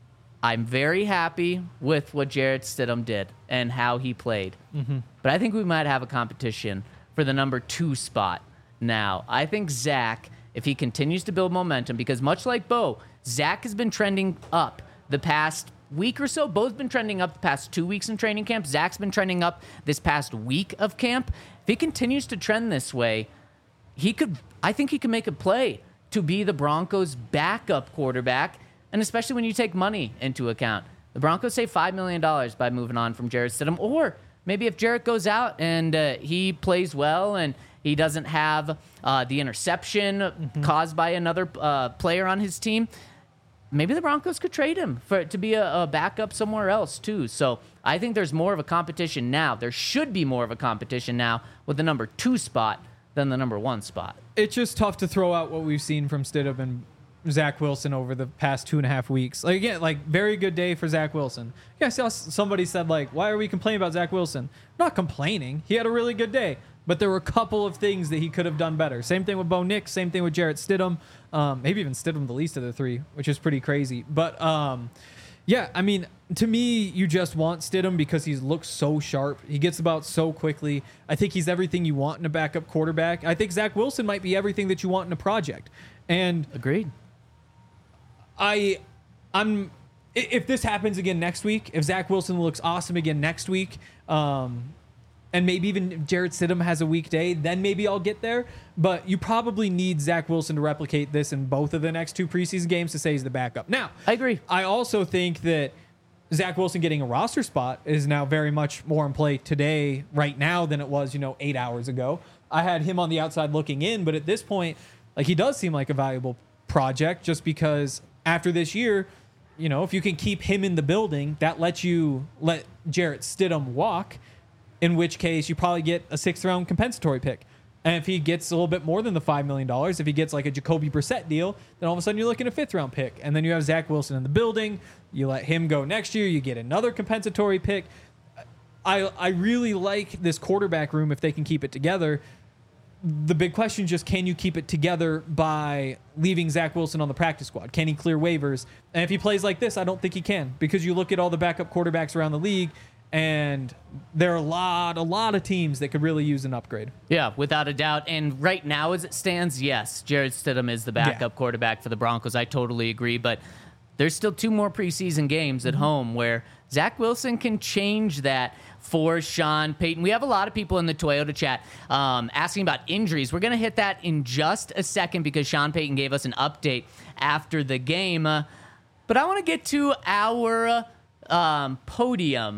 I'm very happy with what Jarrett Stidham did and how he played. Mm-hmm. But I think we might have a competition for the number two spot now. I think Zach, if he continues to build momentum, because much like Bo, Zach has been trending up the past week or so. Bo's been trending up the past two weeks in training camp. Zach's been trending up this past week of camp. If he continues to trend this way, he could, I think he could make a play to be the Broncos' backup quarterback, and especially when you take money into account. The Broncos save five million dollars by moving on from Jarrett Stidham, or maybe if Jarrett goes out and uh, he plays well and he doesn't have uh, the interception mm-hmm. caused by another uh, player on his team, maybe the Broncos could trade him for to be a, a backup somewhere else too. So I think there's more of a competition now. There should be more of a competition now with the number two spot than the number one spot. It's just tough to throw out what we've seen from Stidham and Zach Wilson over the past two and a half weeks. Like again, like very good day for Zach Wilson. Yeah, I saw somebody said like, why are we complaining about Zach Wilson? Not complaining. He had a really good day. But there were a couple of things that he could have done better. Same thing with Bo Nix. Same thing with Jarrett Stidham. Um, maybe even Stidham the least of the three, which is pretty crazy. But um, yeah, I mean, to me, you just want Stidham because he looks so sharp. He gets about so quickly. I think he's everything you want in a backup quarterback. I think Zach Wilson might be everything that you want in a project. And Agreed. I, I'm. i- If this happens again next week, if Zach Wilson looks awesome again next week, um, and maybe even Jarrett Stidham has a weak day, then maybe I'll get there. But you probably need Zach Wilson to replicate this in both of the next two preseason games to say he's the backup. Now, I agree. I also think that Zach Wilson getting a roster spot is now very much more in play today, right now, than it was, you know, eight hours ago. I had him on the outside looking in, but at this point, like he does seem like a valuable project just because after this year, you know, if you can keep him in the building, that lets you let Jarrett Stidham walk, in which case you probably get a sixth round compensatory pick. And if he gets a little bit more than the five million dollars, if he gets like a Jacoby Brissett deal, then all of a sudden you're looking at a fifth round pick. And then you have Zach Wilson in the building. You let him go next year. You get another compensatory pick. I I really like this quarterback room if they can keep it together. The big question is just, can you keep it together by leaving Zach Wilson on the practice squad? Can he clear waivers? And if he plays like this, I don't think he can, because you look at all the backup quarterbacks around the league, and there are a lot, a lot of teams that could really use an upgrade. Yeah, without a doubt. And right now, as it stands, yes, Jarrett Stidham is the backup Yeah. quarterback for the Broncos. I totally agree. But there's still two more preseason games at home where Zach Wilson can change that for Sean Payton. We have a lot of people in the Toyota chat um, asking about injuries. We're going to hit that in just a second because Sean Payton gave us an update after the game. Uh, but I want to get to our um, podium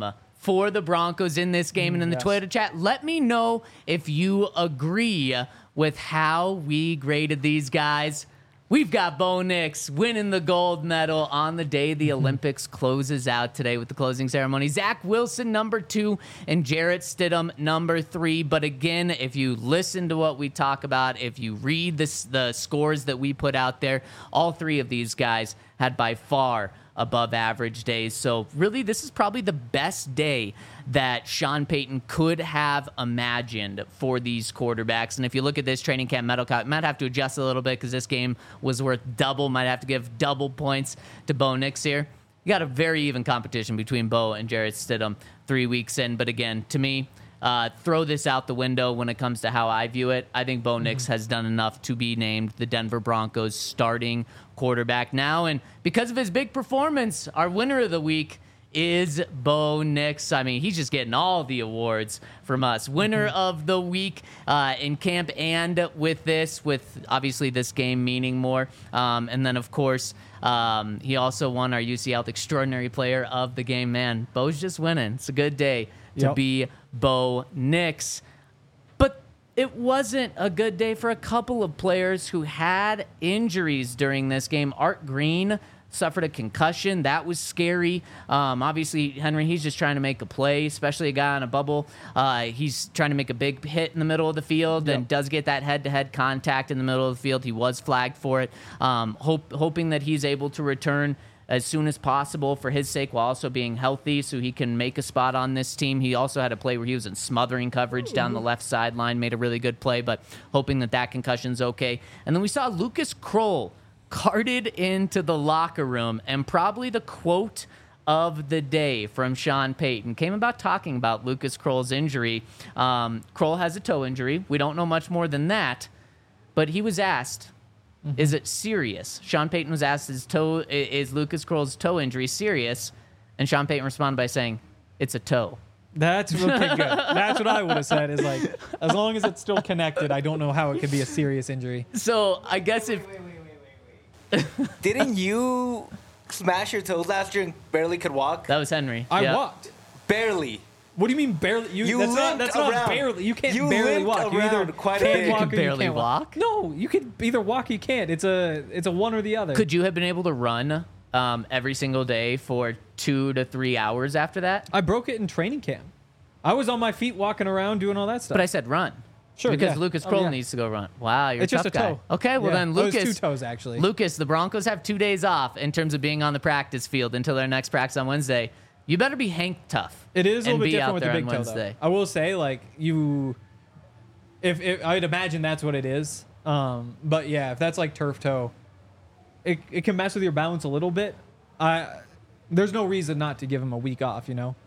for the Broncos in this game. And in the yes. Twitter chat, let me know if you agree with how we graded these guys. We've got Bo Nix winning the gold medal on the day the Olympics closes out today with the closing ceremony. Zach Wilson, number two, and Jarrett Stidham, number three. But again, if you listen to what we talk about, if you read this, the scores that we put out there, all three of these guys had by far above average days. So really, this is probably the best day that Sean Payton could have imagined for these quarterbacks. And if you look at this training camp medal count, might have to adjust a little bit because this game was worth double. Might have to give double points to Bo Nix here. You got a very even competition between Bo and Jarrett Stidham three weeks in. But again, to me, Uh, throw this out the window when it comes to how I view it. I think Bo Nix has done enough to be named the Denver Broncos starting quarterback now. And because of his big performance, our winner of the week is Bo Nix. I mean, he's just getting all the awards from us. Winner of the week uh, in camp and with this, with obviously this game meaning more. Um, and then, of course, um, he also won our U C Health Extraordinary Player of the Game. Man, Bo's just winning. It's a good day to Yep. be Bo Nix. But it wasn't a good day for a couple of players who had injuries during this game. Art Green suffered a concussion. That was scary. Um, obviously, Henry, he's just trying to make a play, especially a guy on a bubble. Uh, he's trying to make a big hit in the middle of the field Yep. and does get that head-to-head contact in the middle of the field. He was flagged for it. Um, hope, hoping that he's able to return as soon as possible for his sake while also being healthy so he can make a spot on this team. He also had a play where he was in smothering coverage down the left sideline, made a really good play, but hoping that that concussion's okay. And then we saw Lucas Kroll carted into the locker room, and probably the quote of the day from Sean Payton came about talking about Lucas Kroll's injury. Um, Kroll has a toe injury. We don't know much more than that, but he was asked, is it serious? Sean Payton was asked, is, toe, is Lucas Kroll's toe injury serious? And Sean Payton responded by saying, it's a toe. That's okay, good. That's what I would have said. Is like, as long as it's still connected, I don't know how it could be a serious injury. So I guess if... Wait, wait, wait, wait, wait. Didn't you smash your toes last year and barely could walk? That was Henry. I Yeah. walked. Barely. What do you mean barely? You, You that's not, limped that's not around. barely. You can't You barely limped walk. You either around quite a can't bit. walk You or can barely you can't walk? No, you can either walk or you can't. It's a it's a one or the other. Could you have been able to run um, every single day for two to three hours after that? I broke it in training camp. I was on my feet walking around doing all that stuff. But I said run. Sure, Because yeah. Lucas Oh, Kroll yeah. needs to go run. Wow, you're It's a just tough a guy. toe. Okay, well Yeah. then Oh, it's Lucas... two toes, actually. Lucas, the Broncos have two days off in terms of being on the practice field until their next practice on Wednesday. You better be Hank tough. It is a and little bit be out different with the there big on toe, Wednesday. though. I will say, like, you... If, if I'd imagine that's what it is. Um, but, yeah, if that's, like, turf toe, it, it can mess with your balance a little bit. I There's no reason not to give him a week off, you know?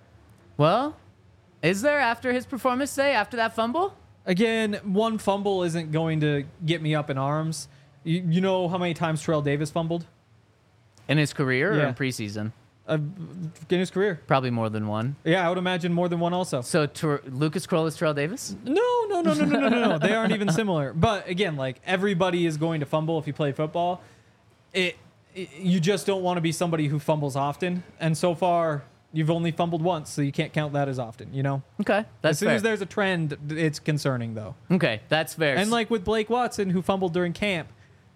Well, is there after his performance today, after that fumble? Again, one fumble isn't going to get me up in arms. You, you know how many times Terrell Davis fumbled In his career or Yeah. in preseason? uh, in his career? Probably more than one. Yeah, I would imagine more than one also. So Ter- Lucas Kroll is Terrell Davis? No, no, no, no, no, no, no, no. They aren't even similar. But again, like everybody is going to fumble if you play football. It, it you just don't want to be somebody who fumbles often. And so far, you've only fumbled once, so you can't count that as often. You know. Okay, that's as soon fair. as there's a trend, it's concerning though. Okay, that's fair. And like with Blake Watson, who fumbled during camp,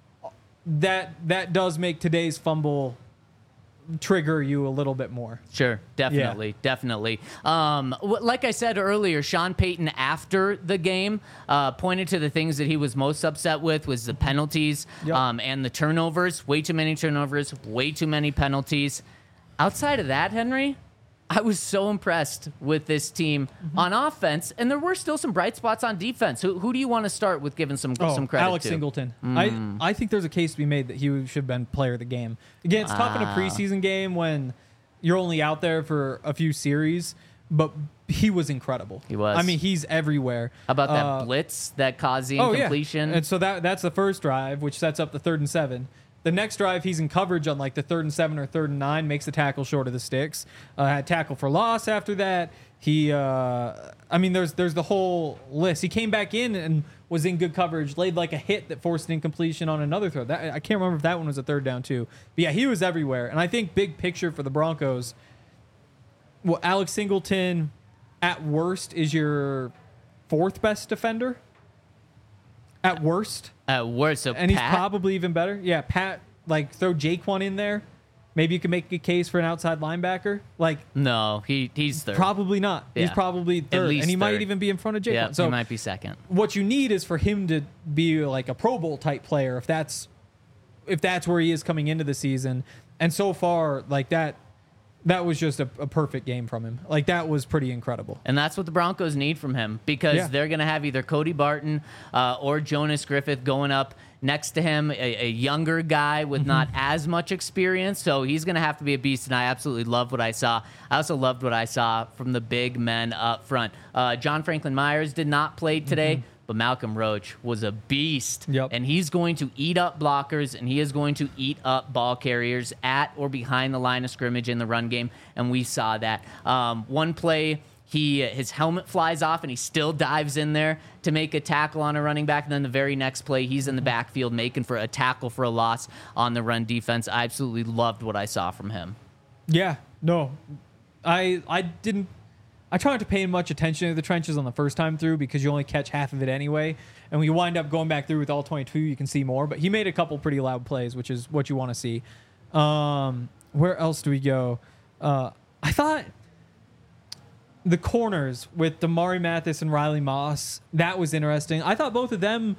that that does make today's fumble trigger you a little bit more. Sure, definitely, definitely. Um, w- like I said earlier, Sean Payton after the game uh, pointed to the things that he was most upset with was the penalties Yep. um, and the turnovers. Way too many turnovers, way too many penalties. Outside of that, Henry, I was so impressed with this team Mm-hmm. on offense, and there were still some bright spots on defense. Who, who do you want to start with giving some some credit Oh, Alex to? Singleton. I I think there's a case to be made that he should have been player of the game. Again, it's tough in a Wow. preseason game when you're only out there for a few series, but he was incredible. He was. I mean, he's everywhere. How about that Uh, blitz that caused the Oh yeah. incompletion? And so that that's the first drive, which sets up the third and seven. The next drive, he's in coverage on like the third and seven or third and nine, makes the tackle short of the sticks. Uh, had tackle for loss after that. He, uh, I mean, there's there's the whole list. He came back in and was in good coverage, laid like a hit that forced an incompletion on another throw. That, I can't remember if that one was a third down too. But yeah, he was everywhere. And I think big picture for the Broncos, well, Alex Singleton at worst is your fourth best defender. At worst. At worst, so And he's Pat, probably even better. Yeah, Pat, like throw Jaquan in there. Maybe you can make a case for an outside linebacker. Like, no, he he's third. probably not. He's Yeah. probably At third. least And he might third. even be in front of Jaquan. Yeah, so he might be second. what you need is for him to be like a Pro Bowl type player if that's if that's where he is coming into the season. And so far, like that that was just a, a perfect game from him. Like that was pretty incredible. And that's what the Broncos need from him because Yeah. they're going to have either Cody Barton uh, or Jonas Griffith going up next to him, a, a younger guy with Mm-hmm. not as much experience. So he's going to have to be a beast. And I absolutely loved what I saw. I also loved what I saw from the big men up front. Uh, John Franklin Myers did not play today. Mm-hmm. But Malcolm Roach was a beast. Yep. And he's going to eat up blockers and he is going to eat up ball carriers at or behind the line of scrimmage in the run game. And we saw that. Um, one play, he his helmet flies off and he still dives in there to make a tackle on a running back. And then the very next play, he's in the backfield making for a tackle for a loss on the run defense. I absolutely loved what I saw from him. Yeah, no. I I didn't I try not to pay much attention to the trenches on the first time through because you only catch half of it anyway. And when you wind up going back through with all twenty-two, you can see more. But he made a couple pretty loud plays, which is what you want to see. Um, where else do we go? Uh, I thought the corners with Damari Mathis and Riley Moss, that was interesting. I thought both of them,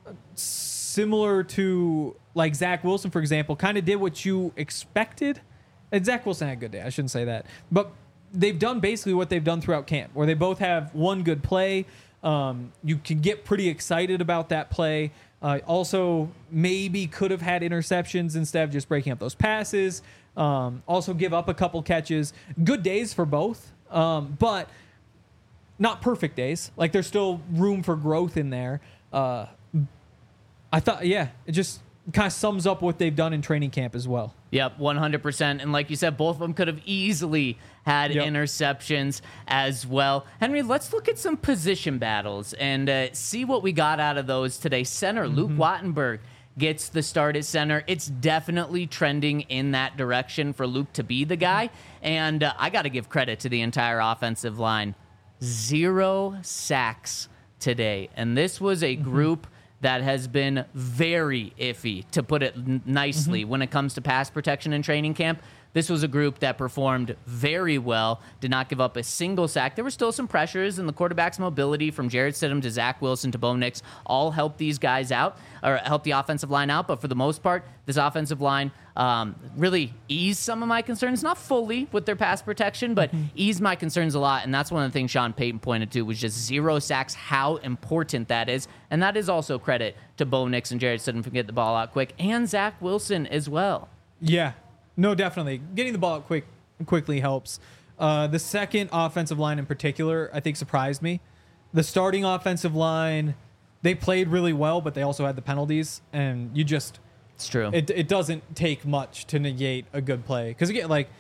similar to like Zach Wilson, for example, kind of did what you expected. And Zach Wilson had a good day. I shouldn't say that. But they've done basically what they've done throughout camp, where they both have one good play. Um, you can get pretty excited about that play. Uh, also, maybe could have had interceptions instead of just breaking up those passes. Um, also, give up a couple catches. Good days for both, um, but not perfect days. Like, there's still room for growth in there. Uh, I thought, yeah, it just kind of sums up what they've done in training camp as well. Yep, one hundred percent. And like you said, both of them could have easily had Yep. interceptions as well. Henry, let's look at some position battles and uh, see what we got out of those today. Center, Mm-hmm. Luke Wattenberg gets the start at center. It's definitely trending in that direction for Luke to be the guy. And uh, I got to give credit to the entire offensive line. Zero sacks today. And this was a group that has been very iffy, to put it n- nicely, when it comes to pass protection in training camp. This was a group that performed very well, did not give up a single sack. There were still some pressures, and the quarterback's mobility from Jarrett Stidham to Zach Wilson to Bo Nix all helped these guys out, or helped the offensive line out. But for the most part, this offensive line um, really eased some of my concerns. Not fully with their pass protection, but eased my concerns a lot. And that's one of the things Sean Payton pointed to, was just zero sacks, how important that is. And that is also credit to Bo Nix and Jarrett Stidham for getting the ball out quick, and Zach Wilson as well. Yeah, no, definitely. Getting the ball out quick quickly helps. Uh, the second offensive line in particular, I think, surprised me. The starting offensive line, they played really well, but they also had the penalties, and you just It's true. it it doesn't take much to negate a good play. Because again, like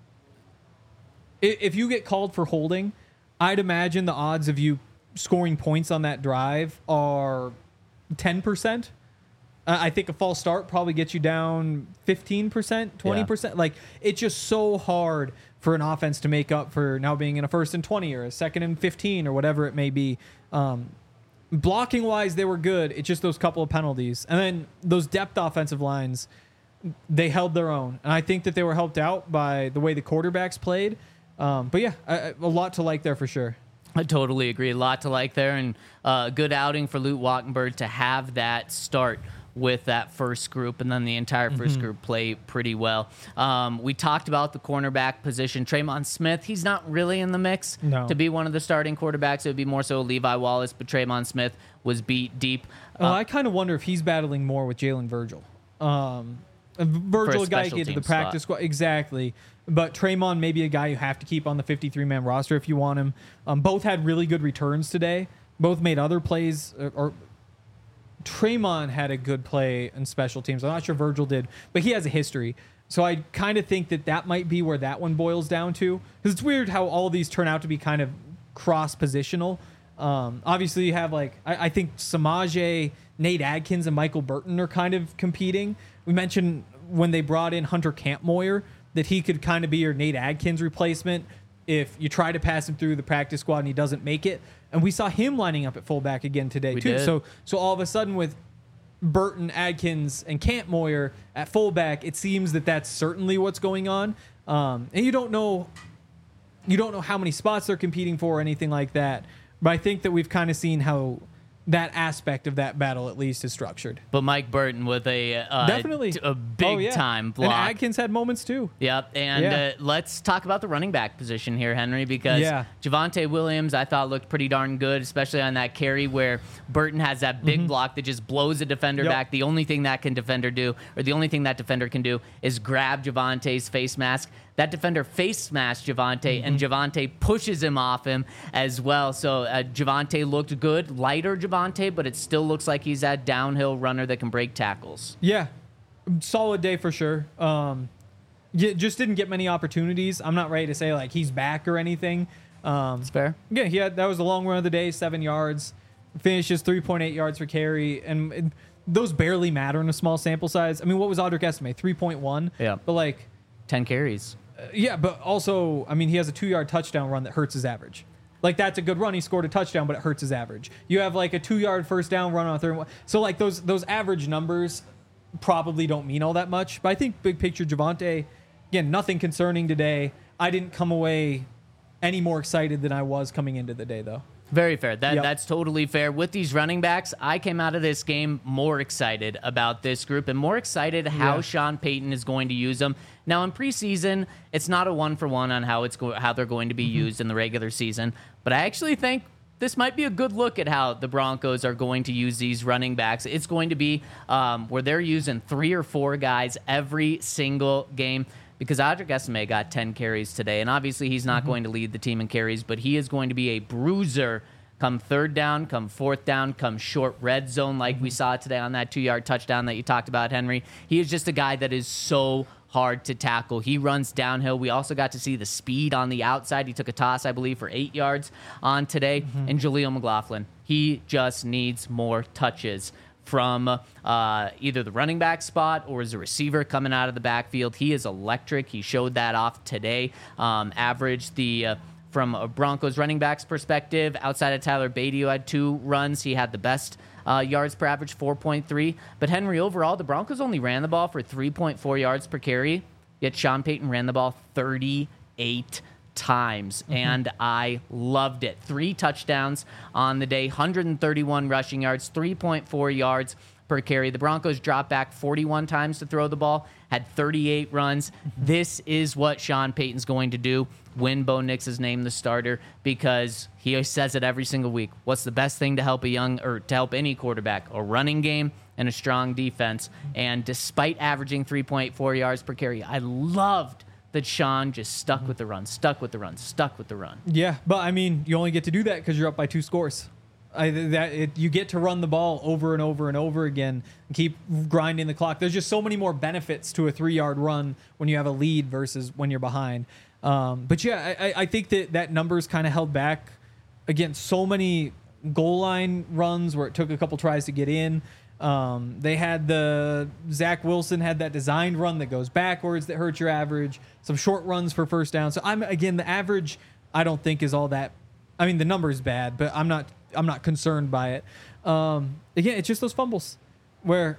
i- if you get called for holding, I'd imagine the odds of you scoring points on that drive are ten percent. Uh, I think a false start probably gets you down fifteen percent, twenty percent. Like, it's just so hard for an offense to make up for now being in a first and twenty or a second and fifteen or whatever it may be. Um, blocking wise, they were good. It's just those couple of penalties. And then those depth offensive lines, they held their own. And I think that they were helped out by the way the quarterbacks played. Um, but yeah, a, a lot to like there for sure. I totally agree. A lot to like there, and a uh, good outing for Luke Wattenberg to have that start with that first group, and then the entire first Mm-hmm. group play pretty well. Um, we talked about the cornerback position. Tremon Smith, he's not really in the mix No. to be one of the starting quarterbacks. It would be more so Levi Wallace, but Tremon Smith was beat deep. Uh, Uh, I kind of wonder if he's battling more with Jalen Virgil. Um, Virgil, a guy special get to the team practice squad. Exactly. But Tremon may be a guy you have to keep on the fifty-three man roster if you want him. Um, both had really good returns today. Both made other plays. Or, or Tremon had a good play in special teams. I'm not sure Virgil did, but he has a history. So I kind of think that that might be where that one boils down to. Because it's weird how all these turn out to be kind of cross-positional. Um, obviously, you have, like, I, I think Samaje, Nate Adkins, and Michael Burton are kind of competing. We mentioned when they brought in Hunter Kampmoyer that he could kind of be your Nate Adkins replacement. if you try to pass him through the practice squad and he doesn't make it. And we saw him lining up at fullback again today We too. did. So so all of a sudden with Burton, Adkins, and Cantmoyer at fullback, it seems that that's certainly what's going on. Um, and you don't know, you don't know how many spots they're competing for or anything like that. But I think that we've kind of seen how that aspect of that battle at least is structured. But Mike Burton with a uh, Definitely t- a big Oh, yeah. time block. And Adkins had moments too. Yep, and Yeah. uh, let's talk about the running back position here, Henry, because Yeah. Javonte Williams, I thought, looked pretty darn good, especially on that carry where Burton has that big block that just blows a defender Yep. back. The only thing that can defender do, or the only thing that defender can do, is grab Javonte's face mask. That defender face masked Javonte, and Javonte pushes him off him as well. So uh, Javonte looked good, lighter Javonte, but it still looks like he's that downhill runner that can break tackles. Yeah, solid day for sure. Um, yeah, just didn't get many opportunities. I'm not ready to say like he's back or anything. Um, It's fair. yeah, he had that was the long run of the day, seven yards, finishes three point eight yards per carry, and, and those barely matter in a small sample size. I mean, what was Audric estimate? three point one. Yeah. but like, ten carries. yeah, but also, I mean, he has a two yard touchdown run that hurts his average. Like that's a good run. He scored a touchdown, but it hurts his average. You have like a two yard first down run on a third one. So like those those average numbers probably don't mean all that much. But I think big picture Javonte, again, nothing concerning today. I didn't come away any more excited than I was coming into the day though. Very fair. That Yep. That's totally fair. With these running backs, I came out of this game more excited about this group and more excited how Yeah. Sean Payton is going to use them. Now, in preseason, it's not a one-for-one on how it's go- how they're going to be Mm-hmm. used in the regular season, but I actually think this might be a good look at how the Broncos are going to use these running backs. It's going to be um, where they're using three or four guys every single game. Because Audric Estimé got ten carries today, and obviously he's not going to lead the team in carries, but he is going to be a bruiser come third down, come fourth down, come short red zone like we saw today on that two-yard touchdown that you talked about, Henry. He is just a guy that is so hard to tackle. He runs downhill. We also got to see the speed on the outside. He took a toss, I believe, for eight yards on today. And Jaleel McLaughlin, he just needs more touches from uh, either the running back spot or as a receiver coming out of the backfield. He is electric. He showed that off today. Um, averaged the, uh, from a Broncos running backs perspective, outside of Tyler Beatty, who had two runs, he had the best uh, yards per average, four point three. But Henry, overall, the Broncos only ran the ball for three point four yards per carry, yet Sean Payton ran the ball thirty-eight times, and I loved it. Three touchdowns on the day, one hundred thirty-one rushing yards, three point four yards per carry. The Broncos dropped back forty-one times to throw the ball, had thirty-eight runs. This is what Sean Payton's going to do when Bo Nix is named the starter, because he says it every single week. What's the best thing to help a young, or to help any quarterback? A running game and a strong defense. And despite averaging three point four yards per carry, I loved that Sean just stuck with the run, stuck with the run, stuck with the run. Yeah, but I mean, you only get to do that because you're up by two scores. I, that it, you get to run the ball over and over and over again and keep grinding the clock. There's just so many more benefits to a three-yard run when you have a lead versus when you're behind. Um, but yeah, I, I think that that number's kind of held back against so many goal line runs where it took a couple tries to get in. Um, they had the Zach Wilson had that designed run that goes backwards that hurts your average. Some short runs for first down. So I'm again the average. I don't think is all that. I mean the number is bad, but I'm not. I'm not concerned by it. Um, again, it's just those fumbles where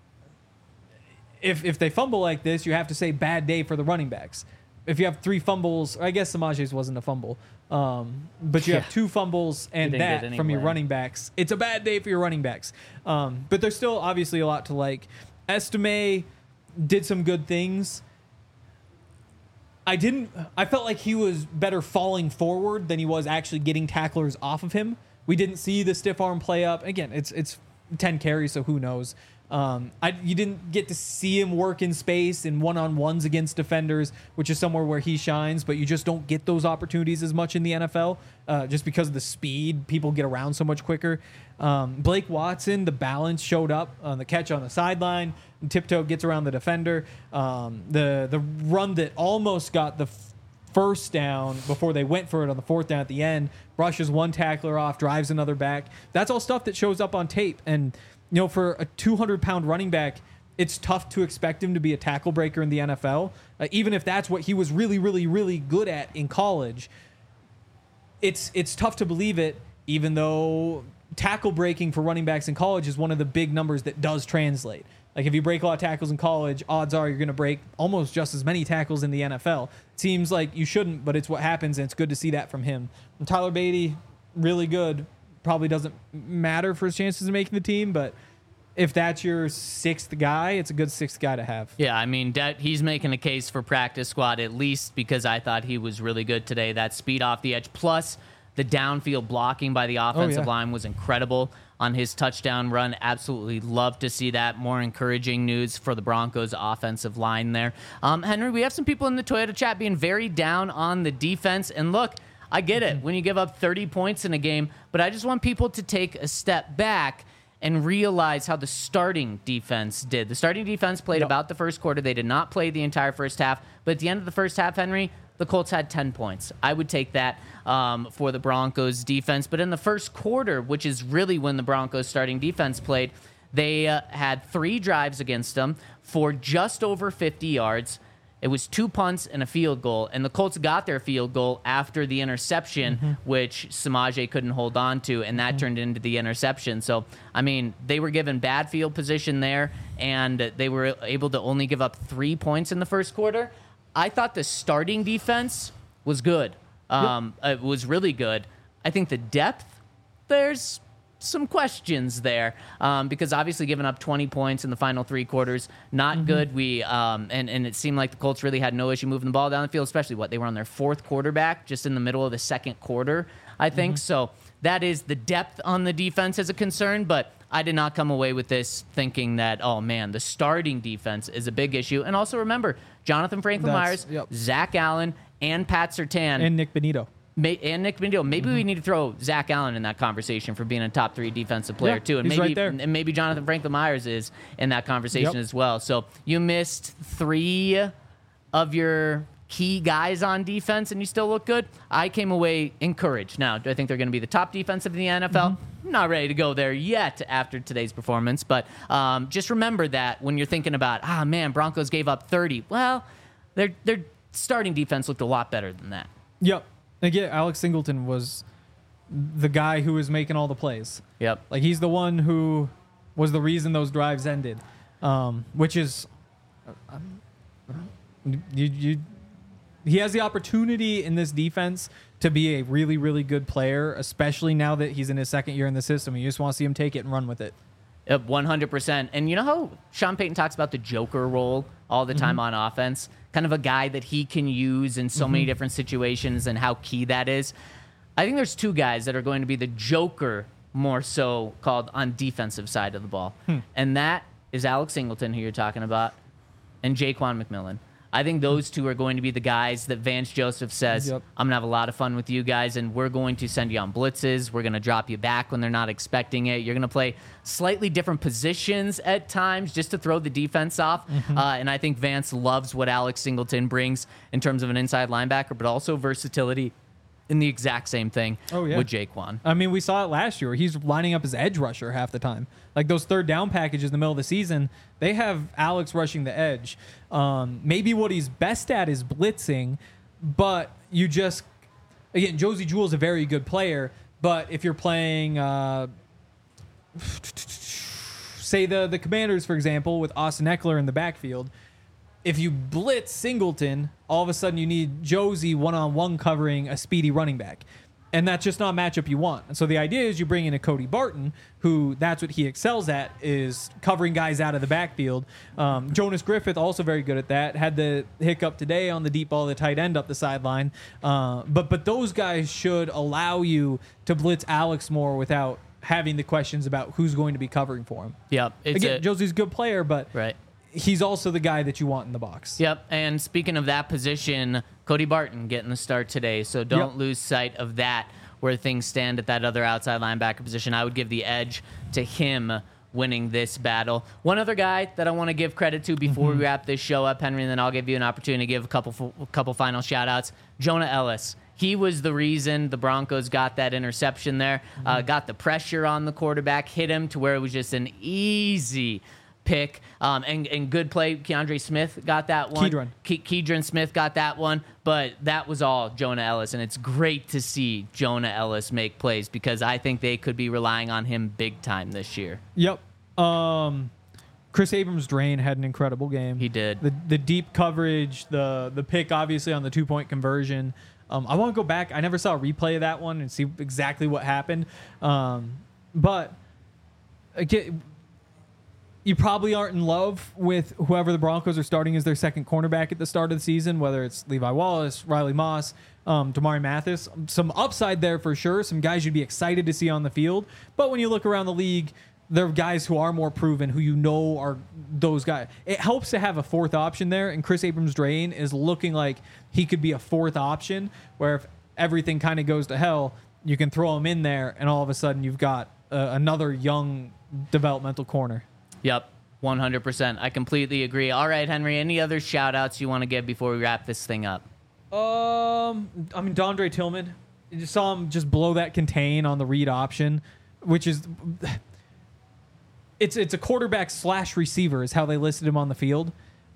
if if they fumble like this, you have to say bad day for the running backs. If you have three fumbles, I guess Samaje's wasn't a fumble, um, but you Yeah. have two fumbles and didn't get that any from your blame. running backs. It's a bad day for your running backs. Um, but there's still obviously a lot to like. Estime did some good things. I didn't. I felt like he was better falling forward than he was actually getting tacklers off of him. We didn't see the stiff arm play up. Again, it's it's ten carries, so who knows? Um, I you didn't get to see him work in space in one-on-ones against defenders, which is somewhere where he shines, but you just don't get those opportunities as much in the N F L uh, just because of the speed. People get around so much quicker. Um, Blake Watson, the balance showed up on the catch on the sideline. Tiptoe gets around the defender. Um, the the run that almost got the f- first down before they went for it on the fourth down at the end, brushes one tackler off, drives another back. That's all stuff that shows up on tape. And, you know, for a two hundred pound running back, it's tough to expect him to be a tackle breaker in the N F L, uh, even if that's what he was really, really, really good at in college. It's it's tough to believe it, even though tackle breaking for running backs in college is one of the big numbers that does translate. Like if you break a lot of tackles in college, odds are you're going to break almost just as many tackles in the N F L. It seems like you shouldn't, but it's what happens, and it's good to see that from him. And Tyler Beatty, really good. Probably doesn't matter for his chances of making the team, but if that's your sixth guy, it's a good sixth guy to have. Yeah, I mean, that, he's making a case for practice squad, at least because I thought he was really good today. That speed off the edge, plus the downfield blocking by the offensive oh, yeah. line was incredible on his touchdown run. Absolutely love to see that. More encouraging news for the Broncos offensive line there. Um, Henry, we have some people in the Toyota chat being very down on the defense. And look, I get it when you give up thirty points in a game, but I just want people to take a step back and realize how the starting defense did. The starting defense played Yep. about the first quarter. They did not play the entire first half, but at the end of the first half, Henry, the Colts had ten points. I would take that um, for the Broncos defense. But in the first quarter, which is really when the Broncos starting defense played, they uh, had three drives against them for just over fifty yards. It was two punts and a field goal, and the Colts got their field goal after the interception, mm-hmm. which Samaje couldn't hold on to, and that mm-hmm. turned into the interception. So, I mean, they were given bad field position there, and they were able to only give up three points in the first quarter. I thought the starting defense was good. Um, yep. It was really good. I think the depth, there's some questions there um, because obviously giving up twenty points in the final three quarters, not mm-hmm. good. We um, and, and it seemed like the Colts really had no issue moving the ball down the field, especially what they were on their fourth quarterback just in the middle of the second quarter, I think. Mm-hmm. So that is the depth on the defense as a concern, but I did not come away with this thinking that, oh man, the starting defense is a big issue. And also remember, Jonathan Franklin That's, Myers, yep. Zach Allen, and Pat Surtain. And Nick Benito. May, and Nick Benito. Maybe mm-hmm. we need to throw Zach Allen in that conversation for being a top three defensive player yeah, too, and he's maybe right there. and maybe Jonathan Franklin Myers is in that conversation Yep. as well. So you missed three of your key guys on defense, and you still look good. I came away encouraged. Now, do I think they're going to be the top defensive in the N F L? Mm-hmm. Not ready to go there yet after today's performance, but um, just remember that when you're thinking about, ah, man, Broncos gave up thirty. Well, their their starting defense looked a lot better than that. Yep. Again, Alex Singleton was the guy who was making all the plays. Yep. Like, he's the one who was the reason those drives ended, um, which is uh, you, you. He has the opportunity in this defense to be a really, really good player, especially now that he's in his second year in the system. You just want to see him take it and run with it. Yep, one hundred percent. And you know how Sean Payton talks about the Joker role all the time mm-hmm. on offense? Kind of a guy that he can use in so mm-hmm. many different situations and how key that is. I think there's two guys that are going to be the Joker more so called on defensive side of the ball. Hmm. And that is Alex Singleton, who you're talking about, and Jaquan McMillan. I think those two are going to be the guys that Vance Joseph says, yep. I'm going to have a lot of fun with you guys, and we're going to send you on blitzes. We're going to drop you back when they're not expecting it. You're going to play slightly different positions at times just to throw the defense off. Mm-hmm. Uh, and I think Vance loves what Alex Singleton brings in terms of an inside linebacker, but also versatility in the exact same thing oh, yeah. with Jaquan. I mean, we saw it last year. He's lining up as edge rusher half the time. Like those third down packages in the middle of the season, they have Alex rushing the edge. Um, maybe what he's best at is blitzing, but you just, again, Josie Jewell's a very good player, but if you're playing, uh, say the, the Commanders, for example, with Austin Eckler in the backfield, if you blitz Singleton, all of a sudden you need Josie one-on-one covering a speedy running back. And that's just not a matchup you want. And so the idea is you bring in a Cody Barton, who that's what he excels at, is covering guys out of the backfield. Um, Jonas Griffith, also very good at that. Had the hiccup today on the deep ball, the tight end up the sideline. Uh, but but those guys should allow you to blitz Alex more without having the questions about who's going to be covering for him. Yep. It's Again, a, Josie's a good player, but... Right. He's also the guy that you want in the box. Yep. And speaking of that position, Cody Barton getting the start today. So don't yep. lose sight of that, where things stand at that other outside linebacker position. I would give the edge to him winning this battle. One other guy that I want to give credit to before mm-hmm. we wrap this show up, Henry, and then I'll give you an opportunity to give a couple, a couple final shout outs. Jonah Ellis. He was the reason the Broncos got that interception there, mm-hmm. uh, got the pressure on the quarterback, hit him to where it was just an easy pick. Um, and, and good play. Keandre Smith got that one. Keydron. Ke- Keydron Smith got that one. But that was all Jonah Ellis. And it's great to see Jonah Ellis make plays because I think they could be relying on him big time this year. Yep. Um, Chris Abrams-Drain had an incredible game. He did. The the deep coverage, the the pick, obviously, on the two-point conversion. Um, I want to go back. I never saw a replay of that one and see exactly what happened. Um, but again, you probably aren't in love with whoever the Broncos are starting as their second cornerback at the start of the season, whether it's Levi Wallace, Riley Moss, um, Damari Mathis. Some upside there for sure. Some guys you'd be excited to see on the field. But when you look around the league, there are guys who are more proven, who you know are those guys. It helps to have a fourth option there, and Chris Abrams-Drain is looking like he could be a fourth option, where if everything kind of goes to hell, you can throw him in there, and all of a sudden you've got uh, another young developmental corner. Yep, one hundred percent. I completely agree. All right, Henry, any other shout-outs you want to give before we wrap this thing up? Um, I mean, Dondre Tillman. You just saw him just blow that contain on the read option, which is... It's it's a quarterback slash receiver is how they listed him on the field.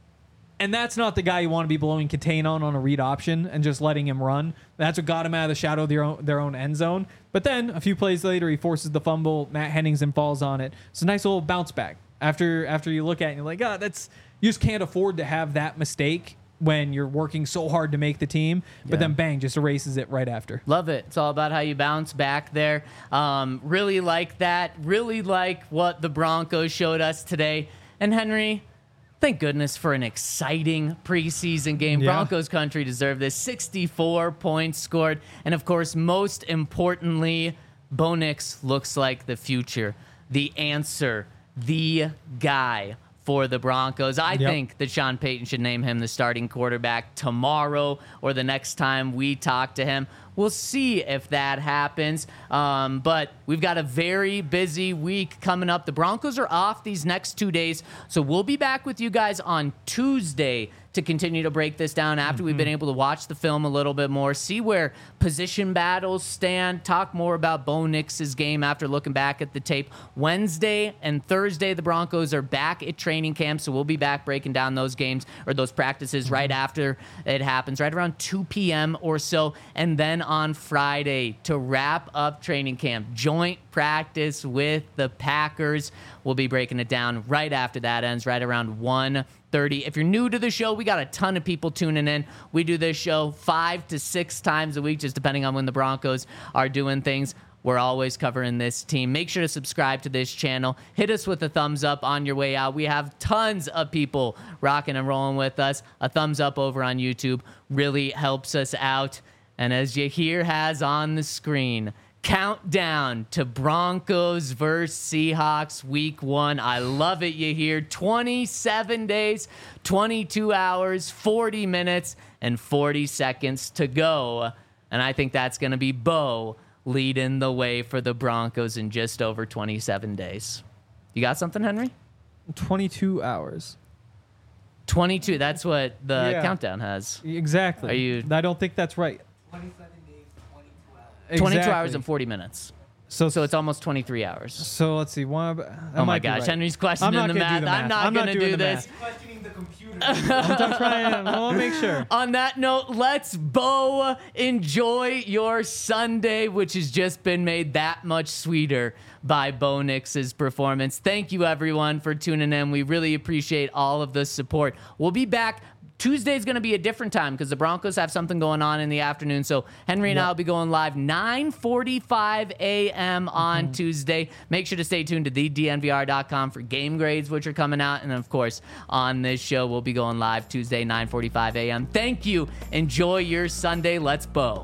And that's not the guy you want to be blowing contain on on a read option and just letting him run. That's what got him out of the shadow of their own, their own end zone. But then a few plays later, he forces the fumble. Matt Henningsen falls on it. It's a nice little bounce back. After after you look at it, and you're like, oh, that's you just can't afford to have that mistake when you're working so hard to make the team. But Yeah. then bang, just erases it right after. Love it. It's all about how you bounce back there. Um, really like that. Really like what the Broncos showed us today. And Henry, thank goodness for an exciting preseason game. Yeah. Broncos country deserved this. sixty-four points scored. And of course, most importantly, Bo Nix looks like the future, the answer, the guy for the Broncos. I Yep. think that Sean Payton should name him the starting quarterback tomorrow or the next time we talk to him. We'll see if that happens. Um, but we've got a very busy week coming up. The Broncos are off these next two days, so we'll be back with you guys on Tuesday to continue to break this down after mm-hmm. we've been able to watch the film a little bit more, see where position battles stand, talk more about Bo Nix's game after looking back at the tape. Wednesday and Thursday, the Broncos are back at training camp, so we'll be back breaking down those games or those practices mm-hmm. right after it happens, right around two p.m. or so. And then on Friday, to wrap up training camp, joint practice with the Packers. We'll be breaking it down right after that ends, right around one thirty. If you're new to the show, we got a ton of people tuning in. We do this show five to six times a week, just depending on when the Broncos are doing things. We're always covering this team. Make sure to subscribe to this channel. Hit us with a thumbs up on your way out. We have tons of people rocking and rolling with us. A thumbs up over on YouTube really helps us out. And as you hear has on the screen, countdown to Broncos versus Seahawks week one. I love it, you hear. twenty-seven days, twenty-two hours, forty minutes, and forty seconds to go. And I think that's going to be Bo leading the way for the Broncos in just over twenty-seven days. You got something, Henry? twenty-two hours. twenty-two. That's what the Yeah. countdown has. Exactly. Are you- I don't think that's right. twenty-seven days, twenty-two hours. twenty-two Exactly. hours and forty minutes. So, So it's almost twenty-three hours. so let's see. One, that Oh my might be gosh, right. Henry's I'm questioning not the gonna do math. the I'm math. not I'm not going to doing do the this. math. Questioning the computer. I'm trying. I want to make sure. On that note, let's Bo enjoy your Sunday, which has just been made that much sweeter by Bo Nix's performance. Thank you, everyone, for tuning in. We really appreciate all of the support. We'll be back. Tuesday's going to be a different time because the Broncos have something going on in the afternoon. So Henry and Yep. I will be going live nine forty-five a.m. on Mm-hmm. Tuesday. Make sure to stay tuned to the D N V R dot com for game grades, which are coming out. And, of course, on this show, we'll be going live Tuesday, nine forty-five a.m. Thank you. Enjoy your Sunday. Let's Bo.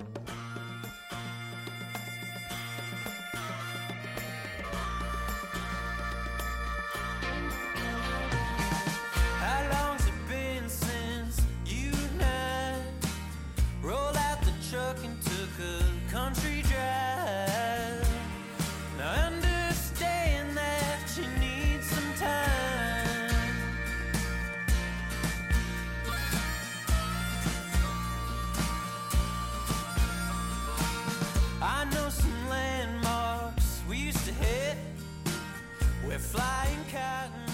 How long's it been since you and I rolled out the truck and took a country drive? Now I understand that you need some time. I know some landmarks we used to hit. We're flying cotton